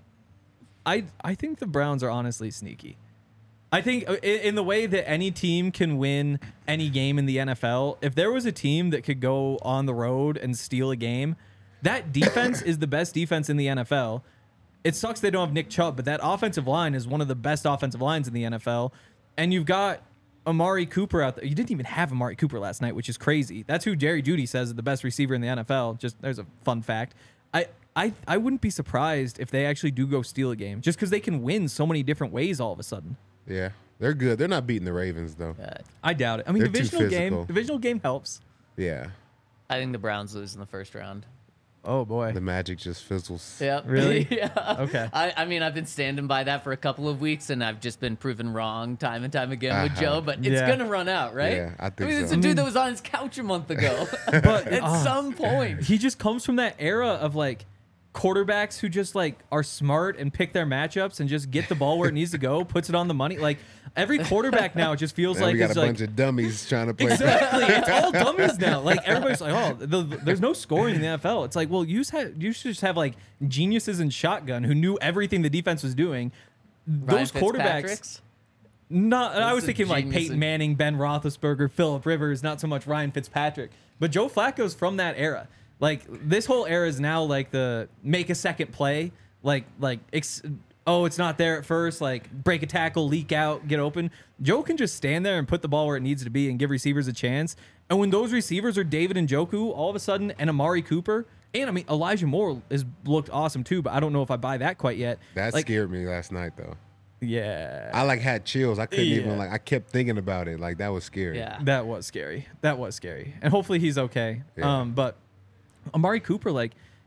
I I think the Browns are honestly sneaky. I think uh, in, in the way that any team can win any game in the N F L, if there was a team that could go on the road and steal a game, that defense is the best defense in the N F L. It sucks they don't have Nick Chubb, but that offensive line is one of the best offensive lines in the N F L. And you've got Amari Cooper out there. You didn't even have Amari Cooper last night, which is crazy. That's who Jerry Jeudy says is the best receiver in the N F L. Just there's a fun fact. I I I wouldn't be surprised if they actually do go steal a game, just because they can win so many different ways all of a sudden. Yeah, they're good. They're not beating the Ravens though. Uh, I doubt it. I mean, They're too divisional game, physical. divisional game helps. Yeah, I think the Browns lose in the first round. Oh boy. the Magic just fizzles. Yep. Really? yeah. Okay. I, I mean, I've been standing by that for a couple of weeks, and I've just been proven wrong time and time again with Uh-huh. Joe. But it's Yeah. gonna run out, right? Yeah, I think I mean, it's so. a dude that was on his couch a month ago. But At uh, some point, he just comes from that era of like quarterbacks who just like are smart and pick their matchups and just get the ball where it needs to go, puts it on the money. Like every quarterback now just feels And like we got it's a like bunch of dummies trying to play. exactly. It's all dummies now. Like everybody's like, oh, the, the- there's no scoring in the N F L. It's like, well, you just have, you should just have like geniuses in shotgun who knew everything the defense was doing. Ryan Those quarterbacks. Fitzpatrick's? Not, I That's was a thinking like genius Peyton in- Manning, Ben Roethlisberger, Phillip Rivers, not so much Ryan Fitzpatrick, but Joe Flacco's from that era. Like this whole era is now like the make a second play, like like ex- oh it's not there at first, like break a tackle, leak out, get open. Joe can just stand there and put the ball where it needs to be and give receivers a chance. And when those receivers are David Njoku all of a sudden and Amari Cooper, and I mean Elijah Moore has looked awesome too, but I don't know if I buy that quite yet. That like, scared me last night though. Yeah. I like had chills. I couldn't Yeah. even like. I kept thinking about it. Like that was scary. Yeah. That was scary. That was scary. And hopefully he's okay. Yeah. Um, but Amari Cooper, like,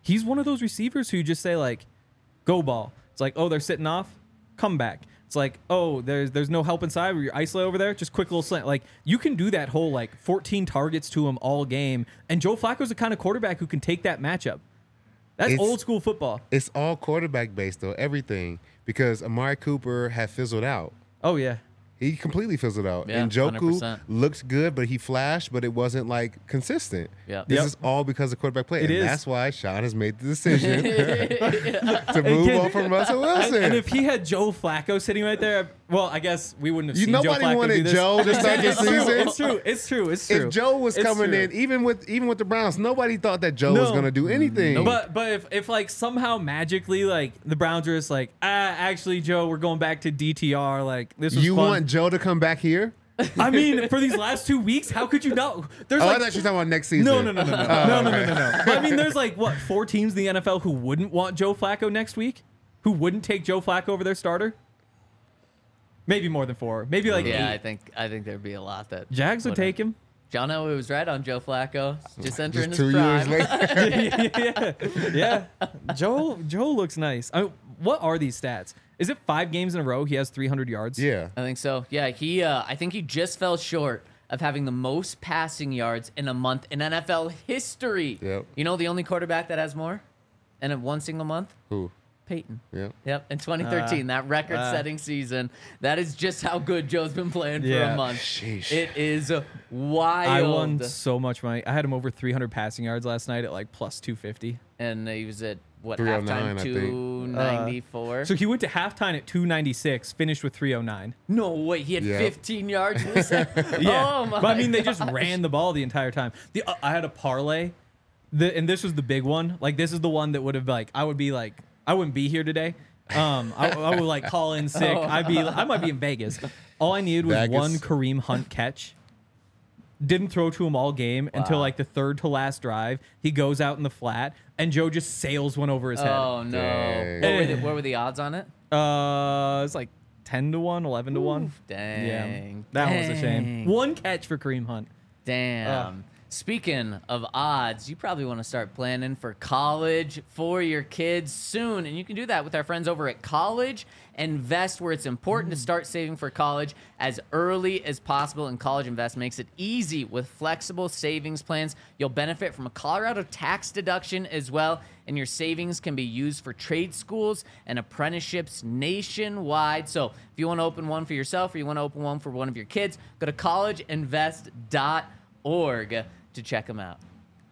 he's one of those receivers who you just say like, go ball. It's like, oh, they're sitting off, come back. It's like, oh, there's there's no help inside where you're isolated over there. Just quick little slant. Like, you can do that whole like fourteen targets to him all game. And Joe Flacco's the kind of quarterback who can take that matchup. That's It's- old school football. It's all quarterback based though, everything, because Amari Cooper had fizzled out. Oh yeah. He completely fizzled out. Yeah, and one hundred Njoku percent. looked good, but he flashed, but it wasn't like consistent. Yeah. This Yep. is all because of quarterback play. It and is. that's why Sean has made the decision to move Again, on from Russell Wilson. And if he had Joe Flacco sitting right there, well, I guess we wouldn't have You- seen nobody Joe Flacco wanted do this. Joe to start the It's true, season. It's true. It's true. It's true. if Joe was It's coming true. in, even with even with the Browns, nobody thought that Joe No. was going to do anything. But but if, if like somehow magically like the Browns are just like, ah, actually Joe, we're going back to D T R. Like this was you fun. want Joe to come back here? I mean, for these last two weeks, how could you not? There's Oh, I like thought you were talking about next season. no no no no no no no no no no. But I mean, there's like what four teams in the N F L who wouldn't want Joe Flacco next week, who wouldn't take Joe Flacco over their starter. Maybe more than four. Maybe like Yeah, I eight. think I think there'd be a lot that Jags would wouldn't. take him. John Elway was right on Joe Flacco. Just entering Just his two prime. years later. yeah, yeah. Joe Joe looks nice. I mean, what are these stats? Is it five games in a row he has three hundred yards? yeah. I think so. Yeah, he. Uh, I think he just fell short of having the most passing yards in a month in N F L history. Yep. You know the only quarterback that has more in one single month? Who? Peyton. Yeah. Yep, in twenty thirteen, that record-setting season. That is just how good Joe's been playing for Yeah. a month. Sheesh. It is wild. I won so much money. I had him over three hundred passing yards last night at like plus two fifty. And he was at what three oh nine, halftime? I think. two ninety-four. So he went to halftime at two ninety-six, finished with three oh nine. no way, he had Yeah. fifteen yards. In this Yeah. Oh my. But I mean, they just gosh. ran the ball the entire time. The uh, I had a parlay, the, and this was the big one. Like this is the one that would have like I would be like I wouldn't be here today. Um, I, I would like call in sick. I'd be I might be in Vegas. All I needed was Vegas. one Kareem Hunt catch. Didn't throw to him all game until Wow. like the third to last drive. He goes out in the flat, and Joe just sails one over his head. Oh no! Dang. What were, the, what were the odds on it? Uh, it's like ten to one, eleven to one. Dang. Yeah, that one was a shame. Dang. One catch for Kareem Hunt. Damn. Speaking of odds, you probably want to start planning for college for your kids soon. And you can do that with our friends over at College Invest, where it's important to start saving for college as early as possible. And College Invest makes it easy with flexible savings plans. You'll benefit from a Colorado tax deduction as well. And your savings can be used for trade schools and apprenticeships nationwide. So if you want to open one for yourself or you want to open one for one of your kids, go to college invest dot org to check them out.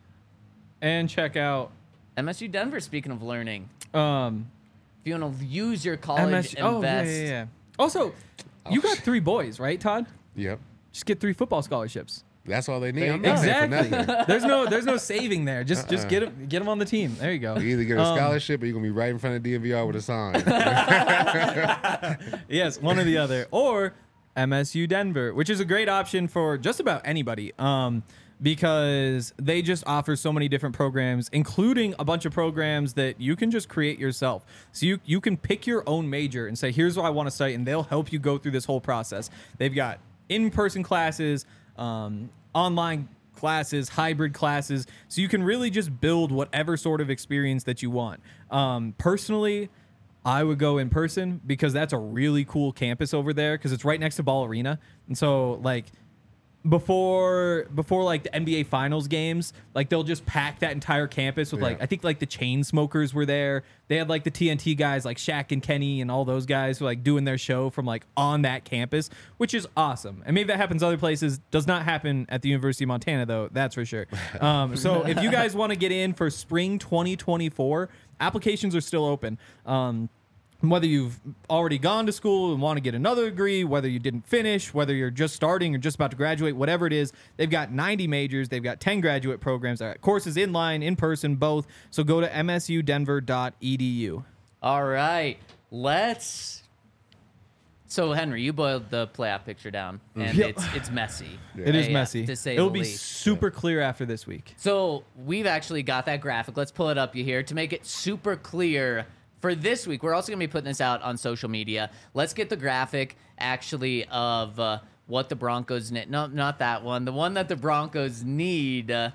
And check out M S U Denver, speaking of learning, um if you want to use your college M S U. Oh, yeah, invest. yeah, yeah. Also, you got three boys, right, Todd? Yep. Just get three football scholarships. That's all they need. There you I'm go. not paying for Exactly. nothing. there's no there's no saving there. Just just Uh-uh. get them get them on the team. There you go. You either get a Um, scholarship or you're going to be right in front of D M V R with a sign. Yes, one or the other. Or M S U Denver, which is a great option for just about anybody. Um, because they just offer so many different programs, including a bunch of programs that you can just create yourself. So you you can pick your own major and say, here's what I want to study, and they'll help you go through this whole process. They've got in-person classes, um, online classes, hybrid classes, so you can really just build whatever sort of experience that you want. Um, personally, I would go in person because that's a really cool campus over there because it's right next to Ball Arena. And so like before before like the N B A Finals games, like they'll just pack that entire campus with like Yeah. I think like the chain smokers were there. They had like the T N T guys like Shaq and Kenny and all those guys who like doing their show from like on that campus, which is awesome. And maybe that happens other places. Does not happen at the University of Montana though, that's for sure. Um, so if you guys want to get in for spring twenty twenty-four, applications are still open. Um, whether you've already gone to school and want to get another degree, whether you didn't finish, whether you're just starting or just about to graduate, whatever it is, they've got ninety majors. They've got ten graduate programs. They've got courses in line, in person, both. So go to m s u denver dot e d u. All right, let's. So Henry, you boiled the playoff picture down, and Yep. it's it's messy. It is Yeah, messy. to say It'll the be least. super clear after this week. So we've actually got that graphic. Let's pull it up you here to make it super clear for this week. We're also going to be putting this out on social media. Let's get the graphic actually of uh, what the Broncos need. No, not that one. The one that the Broncos need uh,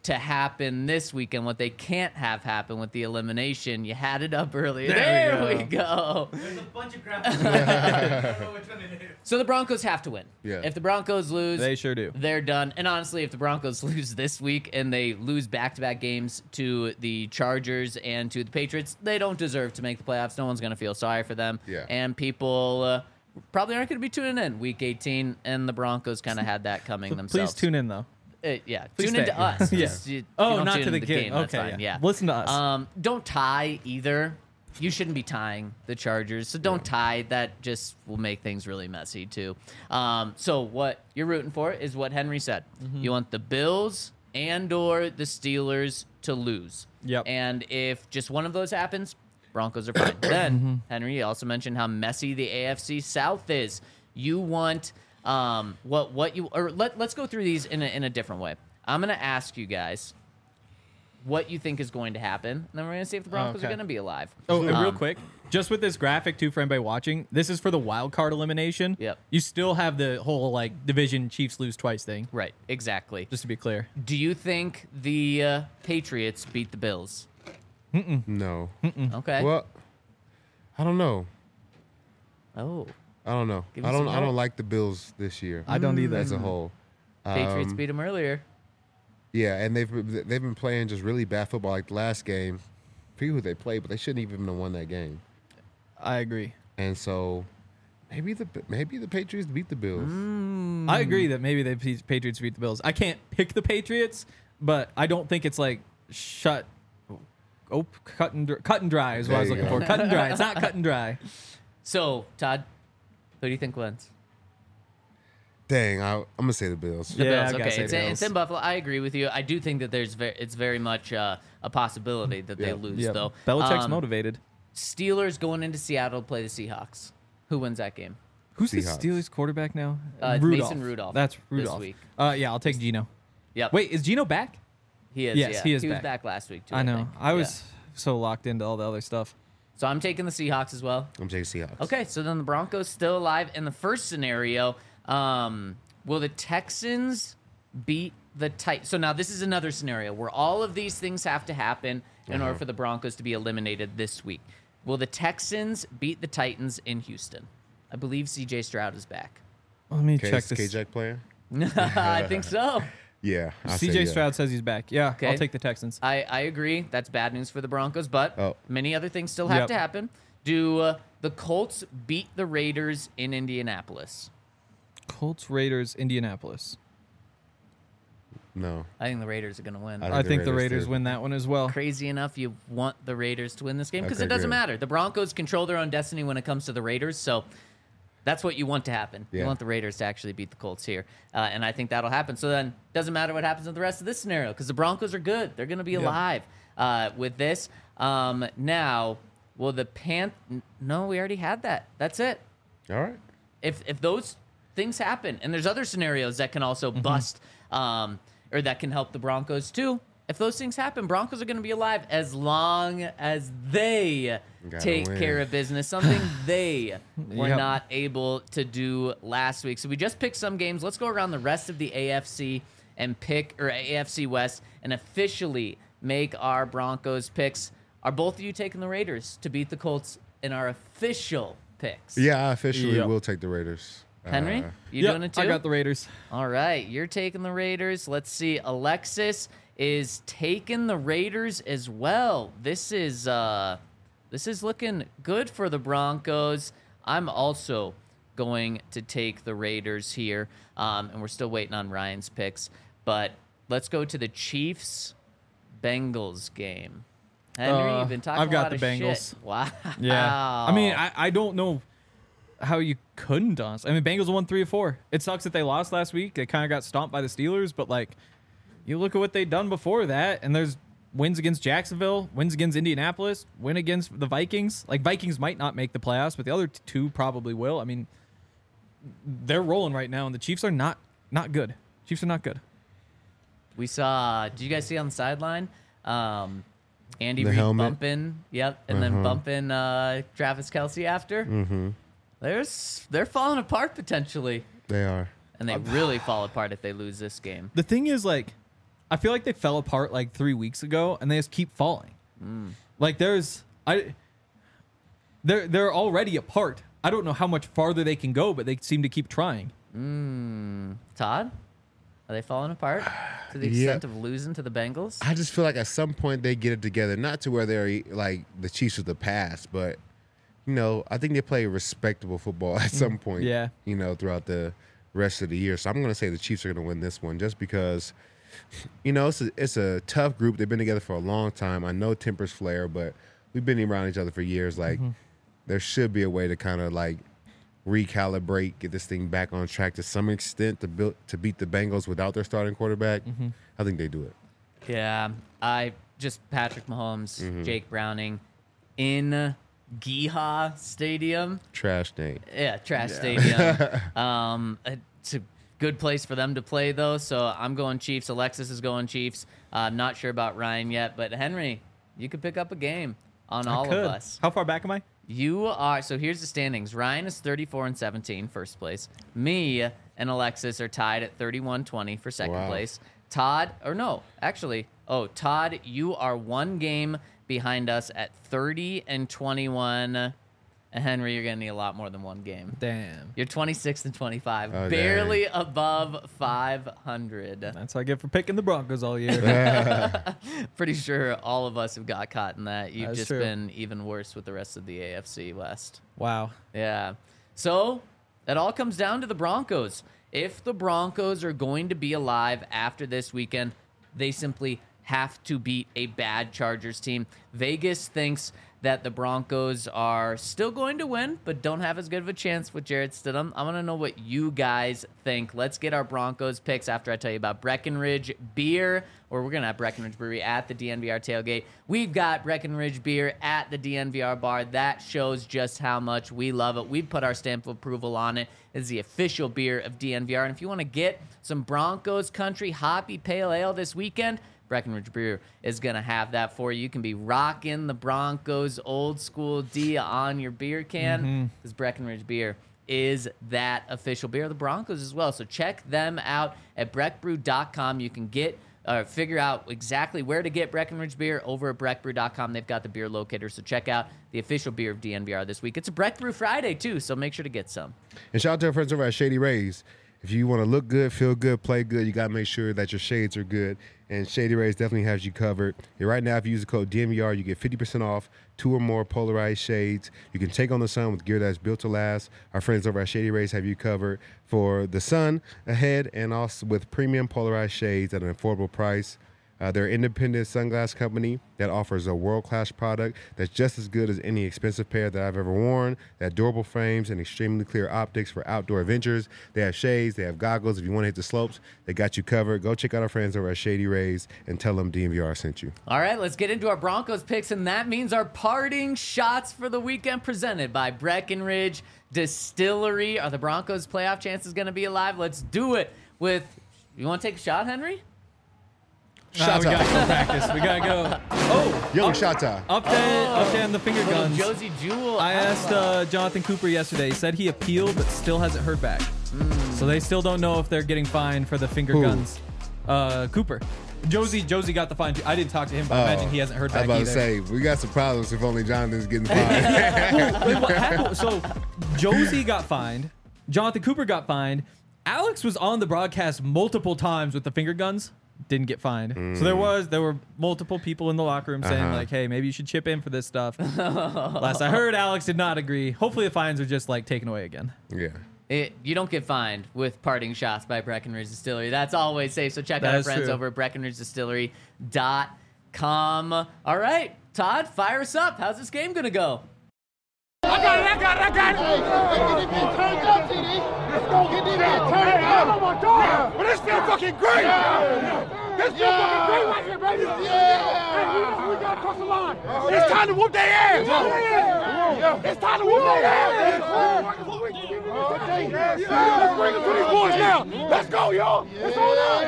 to happen this weekend, what they can't have happen with the elimination. You had it up earlier. There There, we we go. There's a bunch of graphics. I don't know which one it is. So the Broncos have to win. Yeah. If the Broncos lose, They sure do. they're done. And honestly, if the Broncos lose this week and they lose back-to-back games to the Chargers and to the Patriots, they don't deserve to make the playoffs. No one's going to feel sorry for them. Yeah. And people uh, probably aren't going to be tuning in week eighteen, and the Broncos kind of had that coming themselves. Please tune in though. Uh, yeah, Please tune into stay. us. Yeah. Just, you- you Oh, don't not tune to the into game. That's Okay, fine. yeah. Yeah. Listen to us. Um, don't tie either. You shouldn't be tying the Chargers, so don't tie. That just will make things really messy too. Um, so what you're rooting for is what Henry said. Mm-hmm. You want the Bills and or the Steelers to lose. Yep. And if just one of those happens, Broncos are fine. Then Mm-hmm. Henry also mentioned how messy the A F C South is. You want um, what what you or let let's go through these in a, in a different way. I'm gonna ask you guys what you think is going to happen, and then we're gonna see if the Broncos Okay. are gonna be alive. Oh, and real Um, quick, just with this graphic too for anybody watching, this is for the wild card elimination. Yep. You still have the whole like division Chiefs lose twice thing. Right, exactly. Just to be clear. Do you think the uh, Patriots beat the Bills? No. Okay. Well, I don't know. Oh, I don't know. Give I me don't. some I help. don't like the Bills this year. I don't either. As a whole. Patriots Um, beat them earlier. Yeah, and they've they've been playing just really bad football. Like the last game, I forget who they played, but they shouldn't even have won that game. I agree. And so, maybe the maybe the Patriots beat the Bills. Mm. I agree that maybe the P- Patriots beat the Bills. I can't pick the Patriots, but I don't think it's like shut. Oh, cut and dr- cut and dry is what I was There you looking go. for. Cut and dry. It's not cut and dry. So, Todd, who do you think wins? Dang, I, I'm gonna say the Bills. The Yeah, Bills. I gotta Okay, say it's, the in- it's Bills. in Buffalo. I agree with you. I do think that there's very, it's very much uh, a possibility that they Yeah. lose, Yeah, though. Belichick's Um, motivated. Steelers going into Seattle to play the Seahawks. Who wins that game? Who's Seahawks. the Steelers quarterback now? Uh, Rudolph. Mason Rudolph That's this Rudolph. week. Uh, yeah, I'll take Gino. Yep. Wait, is Gino back? he is. yes, yeah. he is He was back. back last week too. I know. think. I Yeah. was so locked into all the other stuff. So I'm taking the Seahawks as well. I'm taking Seahawks. Okay, so then the Broncos still alive. In the first scenario, um, will the Texans beat the Titans? So now this is another scenario where all of these things have to happen in order for the Broncos to be eliminated this week. Will the Texans beat the Titans in Houston? I believe C J Stroud is back. Let me Okay, check is this. K-Jack playing? I think so. Yeah. I'll C say J yeah. Stroud says he's back. Yeah, Okay. I'll take the Texans. I, I agree. That's bad news for the Broncos, but Oh. many other things still have Yep. to happen. Do uh, the Colts beat the Raiders in Indianapolis? Colts, Raiders, Indianapolis. No. I think the Raiders are going to win. I I think the Raiders Raiders did. win that one as well. Crazy enough, you want the Raiders to win this game because Okay, it doesn't good. matter. The Broncos control their own destiny when it comes to the Raiders, so that's what you want to happen. You Yeah. want the Raiders to actually beat the Colts here, uh, and I think that'll happen. So then, doesn't matter what happens in the rest of this scenario because the Broncos are good. They're going to be alive uh, with this. Um, now, will the Pan? No, we already had that. That's it. All right. If if those things happen, and there's other scenarios that can also bust, um, or that can help the Broncos too. If those things happen, Broncos are going to be alive as long as they Gotta take win. care of business, something they were Yep. not able to do last week. So we just picked some games. Let's go around the rest of the A F C and pick, or A F C West, and officially make our Broncos picks. Are both of you taking the Raiders to beat the Colts in our official picks? Yeah, I officially Yep. will take the Raiders. Henry, Uh, you Yep, doing it too? I got the Raiders. All right, you're taking the Raiders. Let's see. Alexis is taking the Raiders as well. This is uh this is looking good for the Broncos. I'm also going to take the Raiders here. Um, and we're still waiting on Ryan's picks. But let's go to the Chiefs Bengals game. Henry, Uh, you've been talking I've got a lot the of Bengals. shit. Wow. Yeah. I mean, I, I don't know how you couldn't, honestly. I mean, Bengals won three or four. It sucks that they lost last week. They kind of got stomped by the Steelers, but, like, you look at what they've done before that, and there's wins against Jacksonville, wins against Indianapolis, win against the Vikings. Like, Vikings might not make the playoffs, but the other t- two probably will. I mean, they're rolling right now, and the Chiefs are not not good. Chiefs are not good. We saw. Did you guys see on the sideline? Um, Andy The Reid helmet. bumping, yep, and then bumping uh, Travis Kelsey after. Mm-hmm. There's they're falling apart potentially, They are. and they really fall apart if they lose this game. The thing is, like, I feel like they fell apart like three weeks ago, and they just keep falling. Mm. Like there's, I, they're they're already apart. I don't know how much farther they can go, but they seem to keep trying. Mm. Todd, are they falling apart to the Yeah. extent of losing to the Bengals? I just feel like at some point they get it together, not to where they're like the Chiefs of the past, but you know, I think they play respectable football at some point. Yeah. You know, throughout the rest of the year. So I'm going to say the Chiefs are going to win this one, just because, you know, it's a, it's a tough group. They've been together for a long time. I know tempers flare, but we've been around each other for years. Like, mm-hmm. there should be a way to kind of like recalibrate, get this thing back on track to some extent to build to beat the Bengals without their starting quarterback. Mm-hmm. I think they do it. Yeah, I just Patrick Mahomes, Mm-hmm. Jake Browning in Geha Stadium. Trash name. Yeah, trash stadium. um, it's a good place for them to play, though. So I'm going Chiefs. Alexis is going Chiefs. Uh, I'm not sure about Ryan yet, but Henry, you could pick up a game on all I could. of us. How far back am I? You are. So here's the standings. Ryan is thirty-four and seventeen, first place. Me and Alexis are tied at thirty-one twenty for second Wow. place. Todd, or no, actually, oh, Todd, you are one game behind us at thirty and twenty-one. And Henry, you're going to need a lot more than one game. Damn. You're twenty-six and twenty-five, Oh, barely above five hundred. That's what I get for picking the Broncos all year. Pretty sure all of us have got caught in that. You've That's just true. been even worse with the rest of the A F C West. Wow. Yeah. So it all comes down to the Broncos. If the Broncos are going to be alive after this weekend, they simply have to beat a bad Chargers team. Vegas thinks that the Broncos are still going to win, but don't have as good of a chance with Jarrett Stidham. I want to know what you guys think. Let's get our Broncos picks after I tell you about Breckenridge Beer, or we're going to have Breckenridge Brewery at the D N V R tailgate. We've got Breckenridge Beer at the D N V R bar. That shows just how much we love it. We've put our stamp of approval on it. It's the official beer of D N V R. And if you want to get some Broncos Country Hoppy Pale Ale this weekend, Breckenridge Brewer is going to have that for you. You can be rocking the Broncos old school D on your beer can because mm-hmm. Breckenridge Beer is that official beer of the Broncos as well. So check them out at breck brew dot com. You can get uh, figure out exactly where to get Breckenridge Beer over at breck brew dot com. They've got the beer locator. So check out the official beer of D N V R this week. It's a Breck Brew Friday, too, so make sure to get some. And shout out to our friends over at Shady Rays. If you want to look good, feel good, play good, you got to make sure that your shades are good. And Shady Rays definitely has you covered. And right now, if you use the code D N V R, you get fifty percent off two or more polarized shades. You can take on the sun with gear that's built to last. Our friends over at Shady Rays have you covered for the sun ahead and also with premium polarized shades at an affordable price. Uh, they're an independent sunglass company that offers a world-class product that's just as good as any expensive pair that I've ever worn. They have durable frames and extremely clear optics for outdoor adventures. They have shades. They have goggles. If you want to hit the slopes, they got you covered. Go check out our friends over at Shady Rays and tell them D N V R sent you. All right, let's get into our Broncos picks, and that means our parting shots for the weekend presented by Breckenridge Distillery. Are the Broncos' playoff chances going to be alive? Let's do it with – you want to take a shot, Henry? Nah, we gotta go practice. We gotta go. Oh, Young up, Shata. Update, update on the finger Little guns. Josie Jewell. I asked uh, Jonathan Cooper yesterday. He said he appealed, but still hasn't heard back. Mm. So they still don't know if they're getting fined for the finger Who? guns. Uh, Cooper. Josie Josie got the fine. too. I didn't talk to him, but I imagine he hasn't heard I back was about either. to say, we got some problems if only Jonathan's getting fined. Well, wait, what happened? So Josie got fined. Jonathan Cooper got fined. Alex was on the broadcast multiple times with the finger guns. Didn't get fined. Mm. So there was there were multiple people in the locker room saying Uh-huh. like, hey, maybe you should chip in for this stuff. Last I heard, Alex did not agree. Hopefully the fines are just like taken away again. Yeah. It, you don't get fined with parting shots by Breckenridge Distillery. That's always safe. So check That out our is friends true. over at breckenridge distillery dot com. All right, Todd, fire us up. How's this game going to go? I got it, I got it, I got it. Hey, get it turned up, T D. Let's go get it turned up. Oh my God. But this feel fucking great. This feel fucking great right here, baby. Yeah. Hey, we, we got to cross the line. It's time to whoop their ass. Yeah. It's time to whoop their ass. Let's bring it to these boys now. Let's go, y'all. It's on us.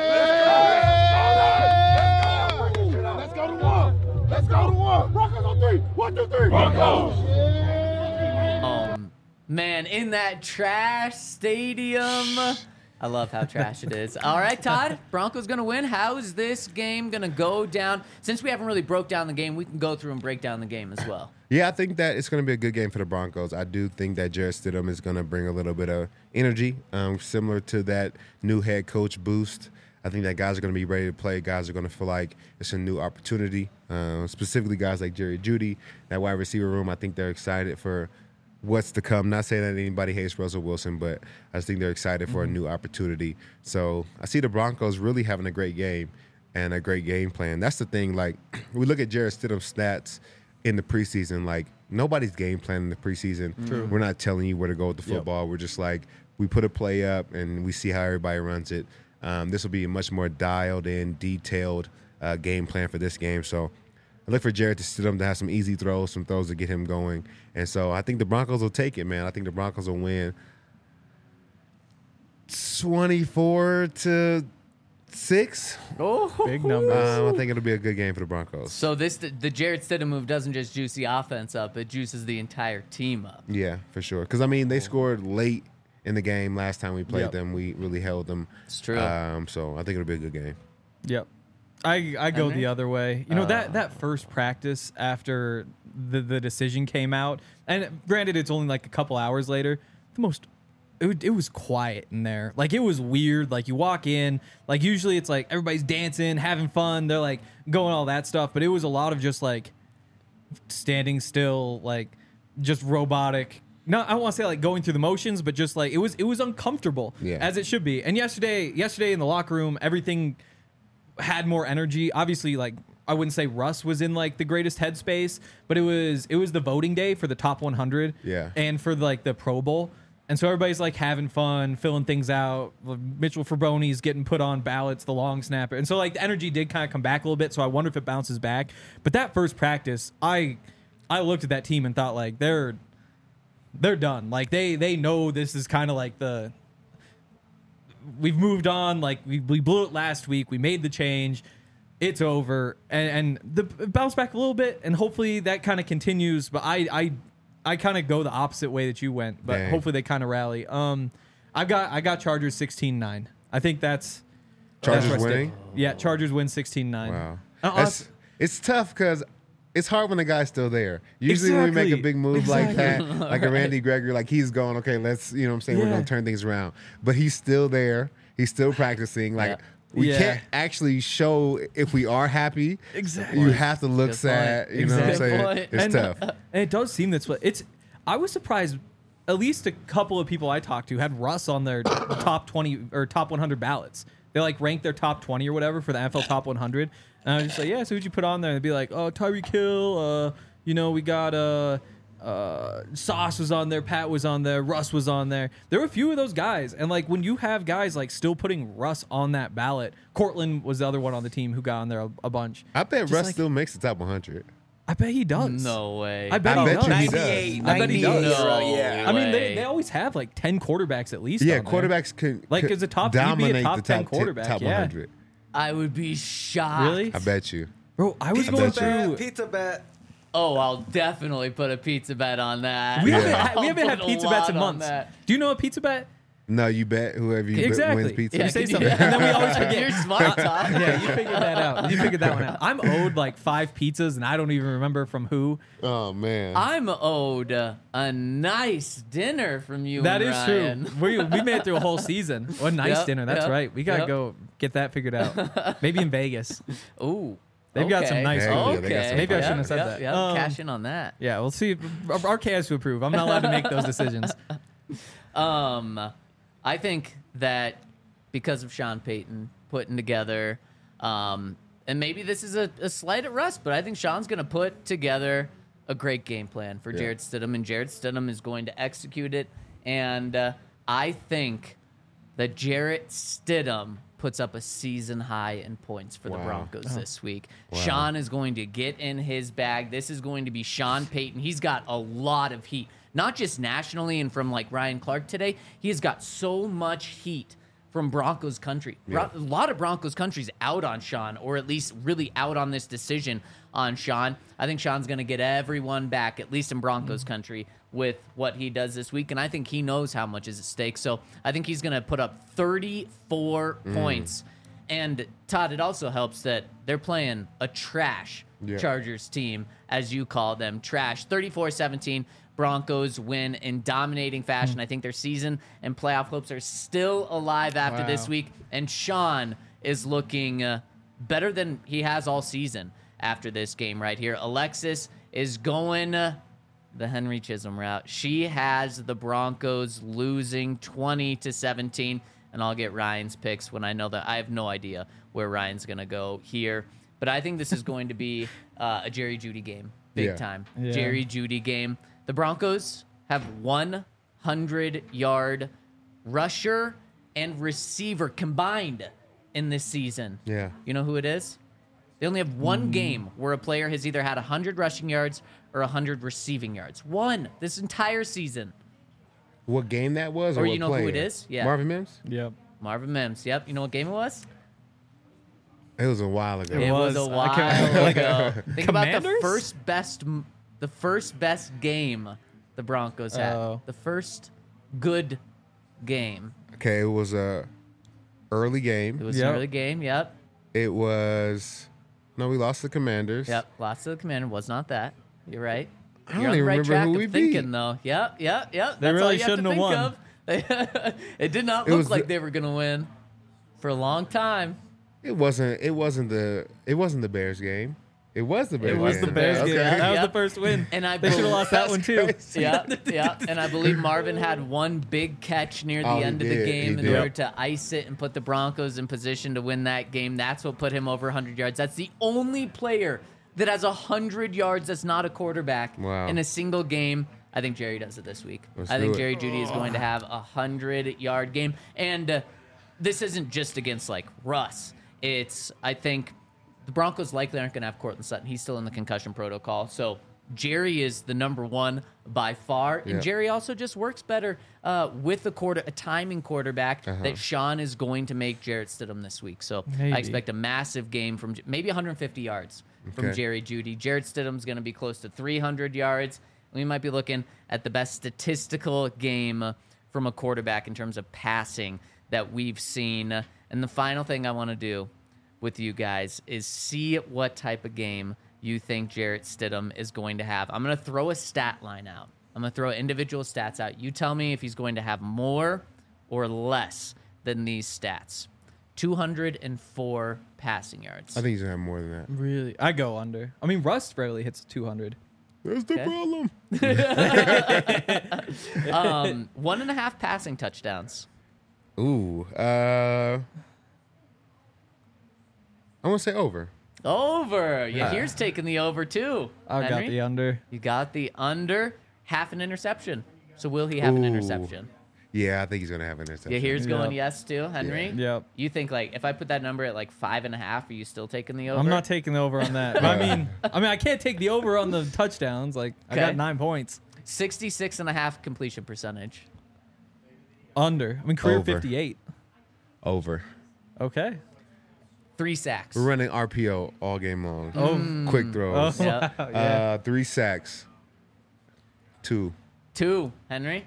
Let's go to one. Let's go to one. Broncos on three. One, two, three. Broncos. Um, man, in that trash stadium, I love how trash it is. All right, Todd, Broncos going to win. How is this game going to go down? Since we haven't really broke down the game, we can go through and break down the game as well. Yeah, I think that it's going to be a good game for the Broncos. I do think that Jarrett Stidham is going to bring a little bit of energy, um, similar to that new head coach boost. I think that guys are going to be ready to play. Guys are going to feel like it's a new opportunity, uh, specifically guys like Jerry Jeudy, that wide receiver room. I think they're excited for what's to come. Not saying that anybody hates Russell Wilson, but I just think they're excited for mm-hmm. a new opportunity. So I see the Broncos really having a great game and a great game plan. That's the thing. Like, we look at Jarrett Stidham's stats in the preseason. Like, nobody's game planning in the preseason. True. We're not telling you where to go with the football. Yep. We're just like, we put a play up and we see how everybody runs it. Um, this will be a much more dialed in, detailed uh, game plan for this game. So I look for Jarrett to Stidham to have some easy throws, some throws to get him going. And so I think the Broncos will take it, man. I think the Broncos will win twenty-four to six. Oh, big numbers. Um, I think it'll be a good game for the Broncos. So this the, the Jarrett Stidham move doesn't just juice the offense up; it juices the entire team up. Yeah, for sure. Because I mean, they scored late in the game last time we played yep. them. We really held them. It's true. Um, so I think it'll be a good game. Yep. I I go Henry? the other way. You know, Uh, that that first practice after the the decision came out, and granted it's only like a couple hours later, the most it, would- it was quiet in there. Like, it was weird. Like, you walk in, like, usually it's like everybody's dancing, having fun, they're like going all that stuff, but it was a lot of just like standing still, like just robotic. No, I don't want to say like going through the motions, but just like it was it was uncomfortable, Yeah. as it should be. And yesterday yesterday in the locker room, everything had more energy. Obviously, like, I wouldn't say Russ was in like the greatest headspace, but it was it was the voting day for the top one hundred, Yeah. and for like the Pro Bowl, and so everybody's like having fun, filling things out. Mitchell Fraboni's getting put on ballots, the long snapper, and so like the energy did kind of come back a little bit. So I wonder if it bounces back. But that first practice, I I looked at that team and thought, like, they're they're done. Like, they they know this is kind of like the. We've moved on. Like, we, we blew it last week. We made the change. It's over. And, and the it bounced back a little bit, and hopefully that kind of continues. But I I, I kind of go the opposite way that you went. But Dang. hopefully they kind of rally. Um, I got I got Chargers sixteen nine. I think that's Chargers that's where I stick. winning? Yeah, Chargers win sixteen nine. Wow. Uh, That's, it's tough because it's hard when the guy's still there. Usually when we make a Exactly. big move like Exactly. that, like a Randy Gregory, like he's going, okay, let's, you know what I'm saying, we're Yeah. going to turn things around. But he's still there. He's still practicing. Like, Yeah. we Yeah. can't actually show if we are happy. Exactly. You have to look Good sad. point. You know what I'm Exactly. saying? Good point. It's and, tough. And it does seem that's what it's. I was surprised. At least a couple of people I talked to had Russ on their top twenty or top one hundred ballots. They like ranked their top twenty or whatever for the N F L top one hundred. And I was just like, yeah, so who'd you put on there? And they'd be like, oh, Tyreek Hill. Uh, you know, we got uh, uh, Sauce was on there, Pat was on there, Russ was on there. There were a few of those guys. And like when you have guys like still putting Russ on that ballot, Cortland was the other one on the team who got on there a, a bunch. I bet Just Russ like- still makes the top one hundred. I bet he does. No way. I bet I he bet does. you he does. ninety-eight, I bet he does. ninety-eight, No yeah. I mean, they, way. they always have like ten quarterbacks at least. Yeah, on there. quarterbacks can, Like, can as a top- he'd be a dominate top the ten top, ten, quarterback, top yeah. one hundred. I would be shocked. Really? I bet you. Bro, I was Pizza going bet, through. pizza bet. Oh, I'll definitely put a pizza bet on that. We Yeah. haven't, had, we I'll haven't had put a pizza bets in lot on months. that. Do you know a pizza bet? No, you bet whoever you bet Exactly. wins pizza. Yeah, Yeah, say can something. you- And then we always forget. You're smart, Todd. Yeah, you figured that out. You figured that one out. I'm owed like five pizzas, and I don't even remember from who. Oh, man. I'm owed a nice dinner from you. That and is Ryan. true. We, we made it through a whole season. What a nice Yep, dinner. That's yep, right. We got to yep. go get that figured out. Maybe in Vegas. Ooh. They've got some okay. nice food. Okay. Yeah, they got some Maybe I Yep, shouldn't have said yep, that. Yep. Um, Cash in on that. Yeah, we'll see. Our K has to approve. I'm not allowed to make those decisions. Um, I think that because of Sean Payton putting together, um, and maybe this is a, a slight at Russ, but I think Sean's going to put together a great game plan for Yeah. Jarrett Stidham, and Jarrett Stidham is going to execute it. And uh, I think that Jarrett Stidham puts up a season high in points for the Wow. Broncos this week. Wow. Sean is going to get in his bag. This is going to be Sean Payton. He's got a lot of heat, not just nationally and from like Ryan Clark today. He has got so much heat from Broncos country. Yeah. A lot of Broncos country's out on Sean, or at least really out on this decision on Sean. I think Sean's going to get everyone back, at least in Broncos country, with what he does this week. And I think he knows how much is at stake. So I think he's going to put up thirty-four points. And Todd, it also helps that they're playing a trash Yeah. Chargers team, as you call them. Trash. thirty-four seventeen. Broncos win in dominating fashion. I think their season and playoff hopes are still alive after Wow. this week. And Sean is looking uh, better than he has all season after this game right here. Alexis is going uh, the Henry Chisholm route. She has the Broncos losing twenty to seventeen. And I'll get Ryan's picks when I know that I have no idea where Ryan's going to go here. But I think this is going to be uh, a Jerry Jeudy game. Big Yeah. time. Yeah. Jerry Jeudy game. The Broncos have one hundred yard rusher and receiver combined in this season. Yeah. You know who it is? They only have one game where a player has either had one hundred rushing yards or one hundred receiving yards. One this entire season. What game that was? Or, Or what you know who player? it is? Yeah. Marvin Mims? Yep. Marvin Mims. Yep. You know what game it was? It was a while ago. It was, was. a I while can't- ago. Think about the Commanders? first best, the first best game the Broncos had. Oh. The first good game. Okay, it was a early It game. was Yep. a really game. Yep. It was no, we lost the Commanders. Yep. Lots of the commander was not that. You're right. I don't You're on the even right remember track who of we thinking beat. though. Yep. Yep. Yep. They That's all really you have to shouldn't have think won. of. it did not It look was like the- they were gonna win for a long time. It wasn't. It wasn't the. It wasn't the Bears game. It was the Bears. It was game. the Bears Okay. game. That was Yep. the first win. And I they should have believe- lost that one too. Crazy. Yeah, yeah. And I believe Marvin had one big catch near the Oh, he end of the did. He game in did. order to ice it and put the Broncos in position to win that game. That's what put him over one hundred yards. That's the only player that has one hundred yards that's not a quarterback Wow. in a single game. I think Jerry does it this week. Let's I think do it. Jerry Jeudy is going to have a one hundred yard game. And uh, this isn't just against, like, Russ. It's, I think, the Broncos likely aren't going to have Cortland Sutton. He's still in the concussion protocol. So Jerry is the number one by far. And Yeah. Jerry also just works better uh, with a quarter, a timing quarterback Uh-huh. that Sean is going to make Jarrett Stidham this week. So Maybe. I expect a massive game from maybe one hundred fifty yards from Okay. Jerry Jeudy. Jarrett Stidham's going to be close to three hundred yards. We might be looking at the best statistical game from a quarterback in terms of passing that we've seen. And the final thing I want to do with you guys is see what type of game you think Jarrett Stidham is going to have. I'm going to throw a stat line out. I'm going to throw individual stats out. You tell me if he's going to have more or less than these stats. two hundred four passing yards. I think he's gonna have more than that. Really, I go under. I mean, Russ rarely hits two hundred. That's the Okay. problem. um, one and a half passing touchdowns. Ooh. Uh. I want to say over. Over. Yeah, here's taking the over too. I got Henry? the under. You got the under. Half an interception. So will he have an Ooh. interception? Yeah, I think he's gonna have an interception. Yeah, here's Yeah. going yes too, Henry. Yep. You think like if I put that number at like five and a half, are you still taking the over? I'm not taking the over on that. But I mean, I mean, I can't take the over on the touchdowns. Like, I Okay. got nine points. sixty-six and a half completion percentage. Under. I mean, career Over. fifty-eight. Over. Okay. Three sacks. We're running R P O all game long. Oh. Quick Oh, throws. Yeah. wow, yeah. Uh, three sacks. Two. Two, Henry.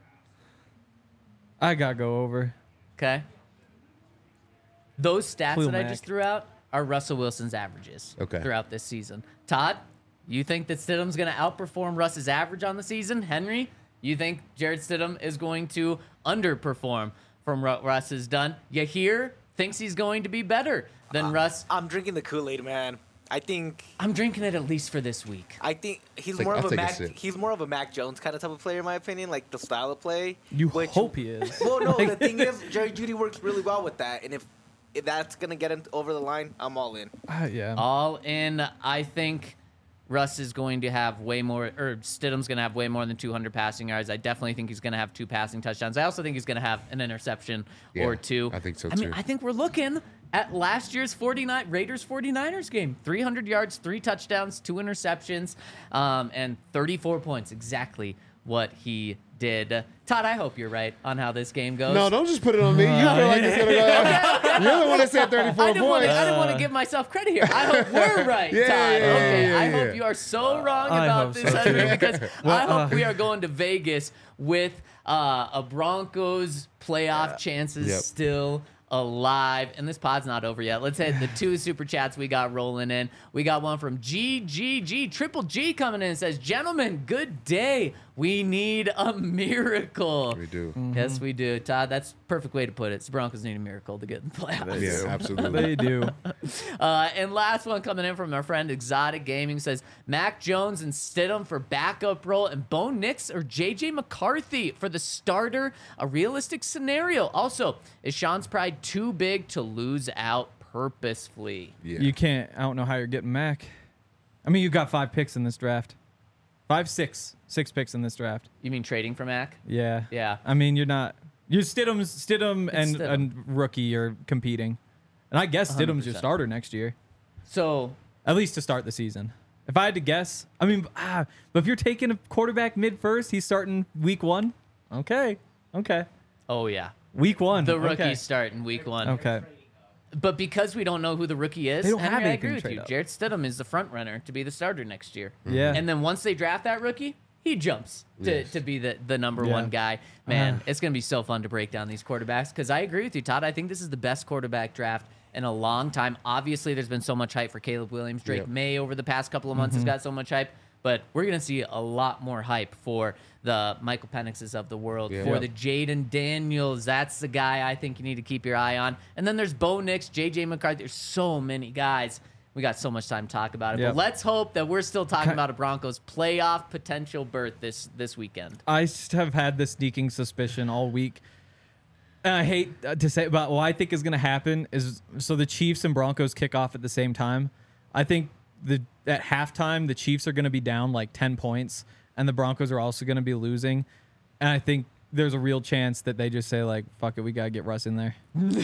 I got to go over. Okay. Those stats Clue that I Mac. just threw out are Russell Wilson's averages Okay. throughout this season. Todd, you think that Stidham's going to outperform Russ's average on the season? Henry, you think Jarrett Stidham is going to underperform from what Russ has done? Yahir thinks he's going to be better than Russ. I'm drinking the Kool-Aid, man. I think I'm drinking it at least for this week. I think he's Take- more I'll of a take a Mac. sip. He's more of a Mac Jones kind of type of player, in my opinion. Like the style of play. You which- hope he is. Well, no. The thing is, Jerry Jeudy works really well with that, and if, if that's gonna get him over the line, I'm all in. Uh, yeah. All in, I think Russ is going to have way more, or Stidham's going to have way more than two hundred passing yards. I definitely think he's going to have two passing touchdowns. I also think he's going to have an interception Yeah, or two. I think so, I mean, too. I think we're looking at last year's forty-nine Raiders forty-niners game. three hundred yards, three touchdowns, two interceptions, um, and thirty-four points. Exactly what he did. Todd, I hope you're right on how this game goes. No, don't just put it on me. You feel like it's gonna go. You're the one that said thirty-four I didn't, want points. to, I didn't want to give myself credit here. I hope we're right, Yeah, Todd. yeah, okay, yeah, I yeah. hope you are so wrong I about hope this, so, Henry, too. because Well, I hope uh, we are going to Vegas with uh, a Broncos playoff chances Yep. still alive. And this pod's not over yet. Let's hit the two super chats we got rolling in. We got one from G G G, Triple G coming in and says, gentlemen, good day. We need a miracle. We do. Yes, we do. Todd, that's the perfect way to put it. The Broncos need a miracle to get in the playoffs. Yeah, absolutely. They do. Uh, and last one coming in from our friend Exotic Gaming says, Mac Jones and Stidham for backup role and Bo Nix or J J McCarthy for the starter, a realistic scenario. Also, is Sean's pride too big to lose out purposefully? Yeah. You can't. I don't know how you're getting Mac. I mean, you've got five picks in this draft. Five, six, six picks in this draft. You mean trading for Mac? Yeah. Yeah. I mean, you're not. You're Stidham's Stidham and, Stidham. and rookie are competing, and I guess one hundred Stidham's your percent. starter next year, So, at least to start the season. If I had to guess, I mean, ah, but if you're taking a quarterback mid first, he's starting week one. Okay. Okay. oh yeah. Week one. The rookie Okay. start in week one. Okay. But because we don't know who the rookie is, They don't Henry, have I anything agree to with trade you. up. Jarrett Stidham is the front runner to be the starter next year. Yeah. And then once they draft that rookie, he jumps to, Yes. to be the, the number Yeah. one guy. Man, Uh-huh. it's going to be so fun to break down these quarterbacks because I agree with you, Todd. I think this is the best quarterback draft in a long time. Obviously, there's been so much hype for Caleb Williams. Drake Yep. May over the past couple of months Mm-hmm. has got so much hype. But we're going to see a lot more hype for the Michael Penixes of the world, Yeah. for Yep. the Jaden Daniels. That's the guy I think you need to keep your eye on. And then there's Bo Nix, J J McCarthy. There's so many guys. We got so much time to talk about it. Yep. But let's hope that we're still talking Okay. about a Broncos playoff potential berth this this weekend. I just have had this sneaking suspicion all week. And I hate uh, to say, but what I think is going to happen is so the Chiefs and Broncos kick off at the same time. I think the at halftime the Chiefs are going to be down like ten points, and the Broncos are also going to be losing. And I think there's a real chance that they just say like, "Fuck it, we gotta get Russ in there."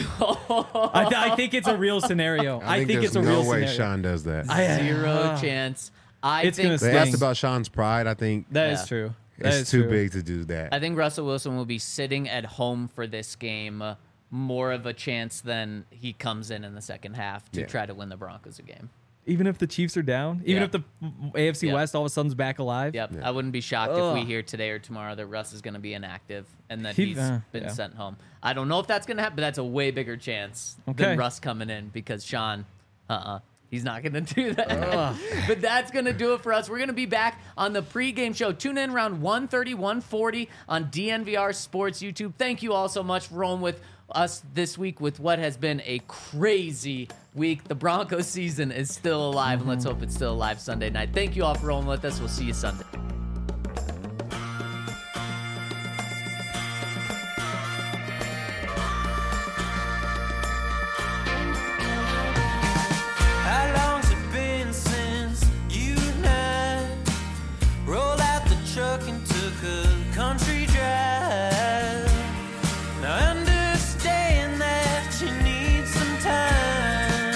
I, th- I think it's a real scenario. I think, think there's it's a no real way scenario. Sean does that. I- Zero uh, chance. I it's gonna think they sting. asked about Sean's pride. I think That is Yeah. true. That it's is too true. big to do that. I think Russell Wilson will be sitting at home for this game. Uh, more of a chance than he comes in in the second half to Yeah. try to win the Broncos a game. Even if the Chiefs are down, even Yeah. if the A F C Yeah. West all of a sudden's back alive. Yep, Yeah. I wouldn't be shocked if we Ugh. hear today or tomorrow that Russ is going to be inactive and that He- he's uh, been yeah. sent home. I don't know if that's going to happen, but that's a way bigger chance Okay. than Russ coming in because Sean, uh-uh, he's not going to do that. But that's going to do it for us. We're going to be back on the pregame show. Tune in around one thirty, one forty on D N V R Sports YouTube. Thank you all so much for rolling with us this week with what has been a crazy week. The Broncos season is still alive, and let's hope it's still alive Sunday night. Thank you all for rolling with us. We'll see you Sunday. How long's it been since you and I rolled out the truck and took a country drive? Now I understand that you need some time.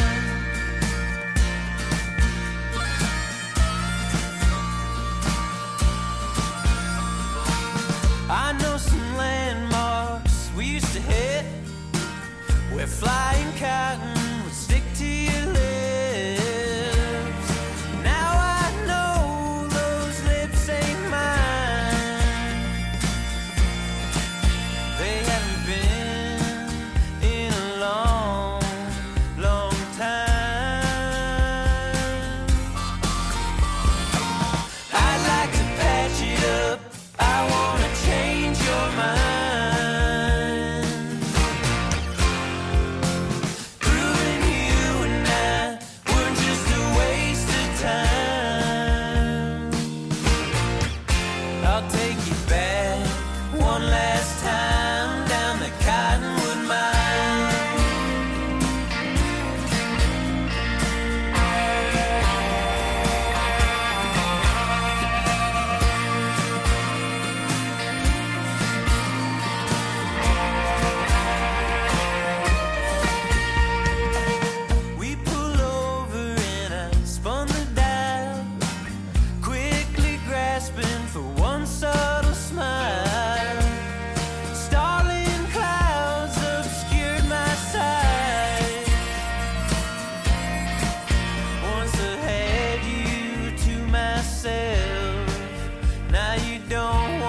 I know some landmarks we used to hit where flying cotton would stick to your lips. Now I know those lips ain't mine. They haven't been in a long, long time. I'd like to patch it up. I wanna change your mind. Proving you and I were just a waste of time. I'll take you back one last time down the Cottonwood Mine. We pull over and I spun the dial, quickly grasping for one subtle Now you don't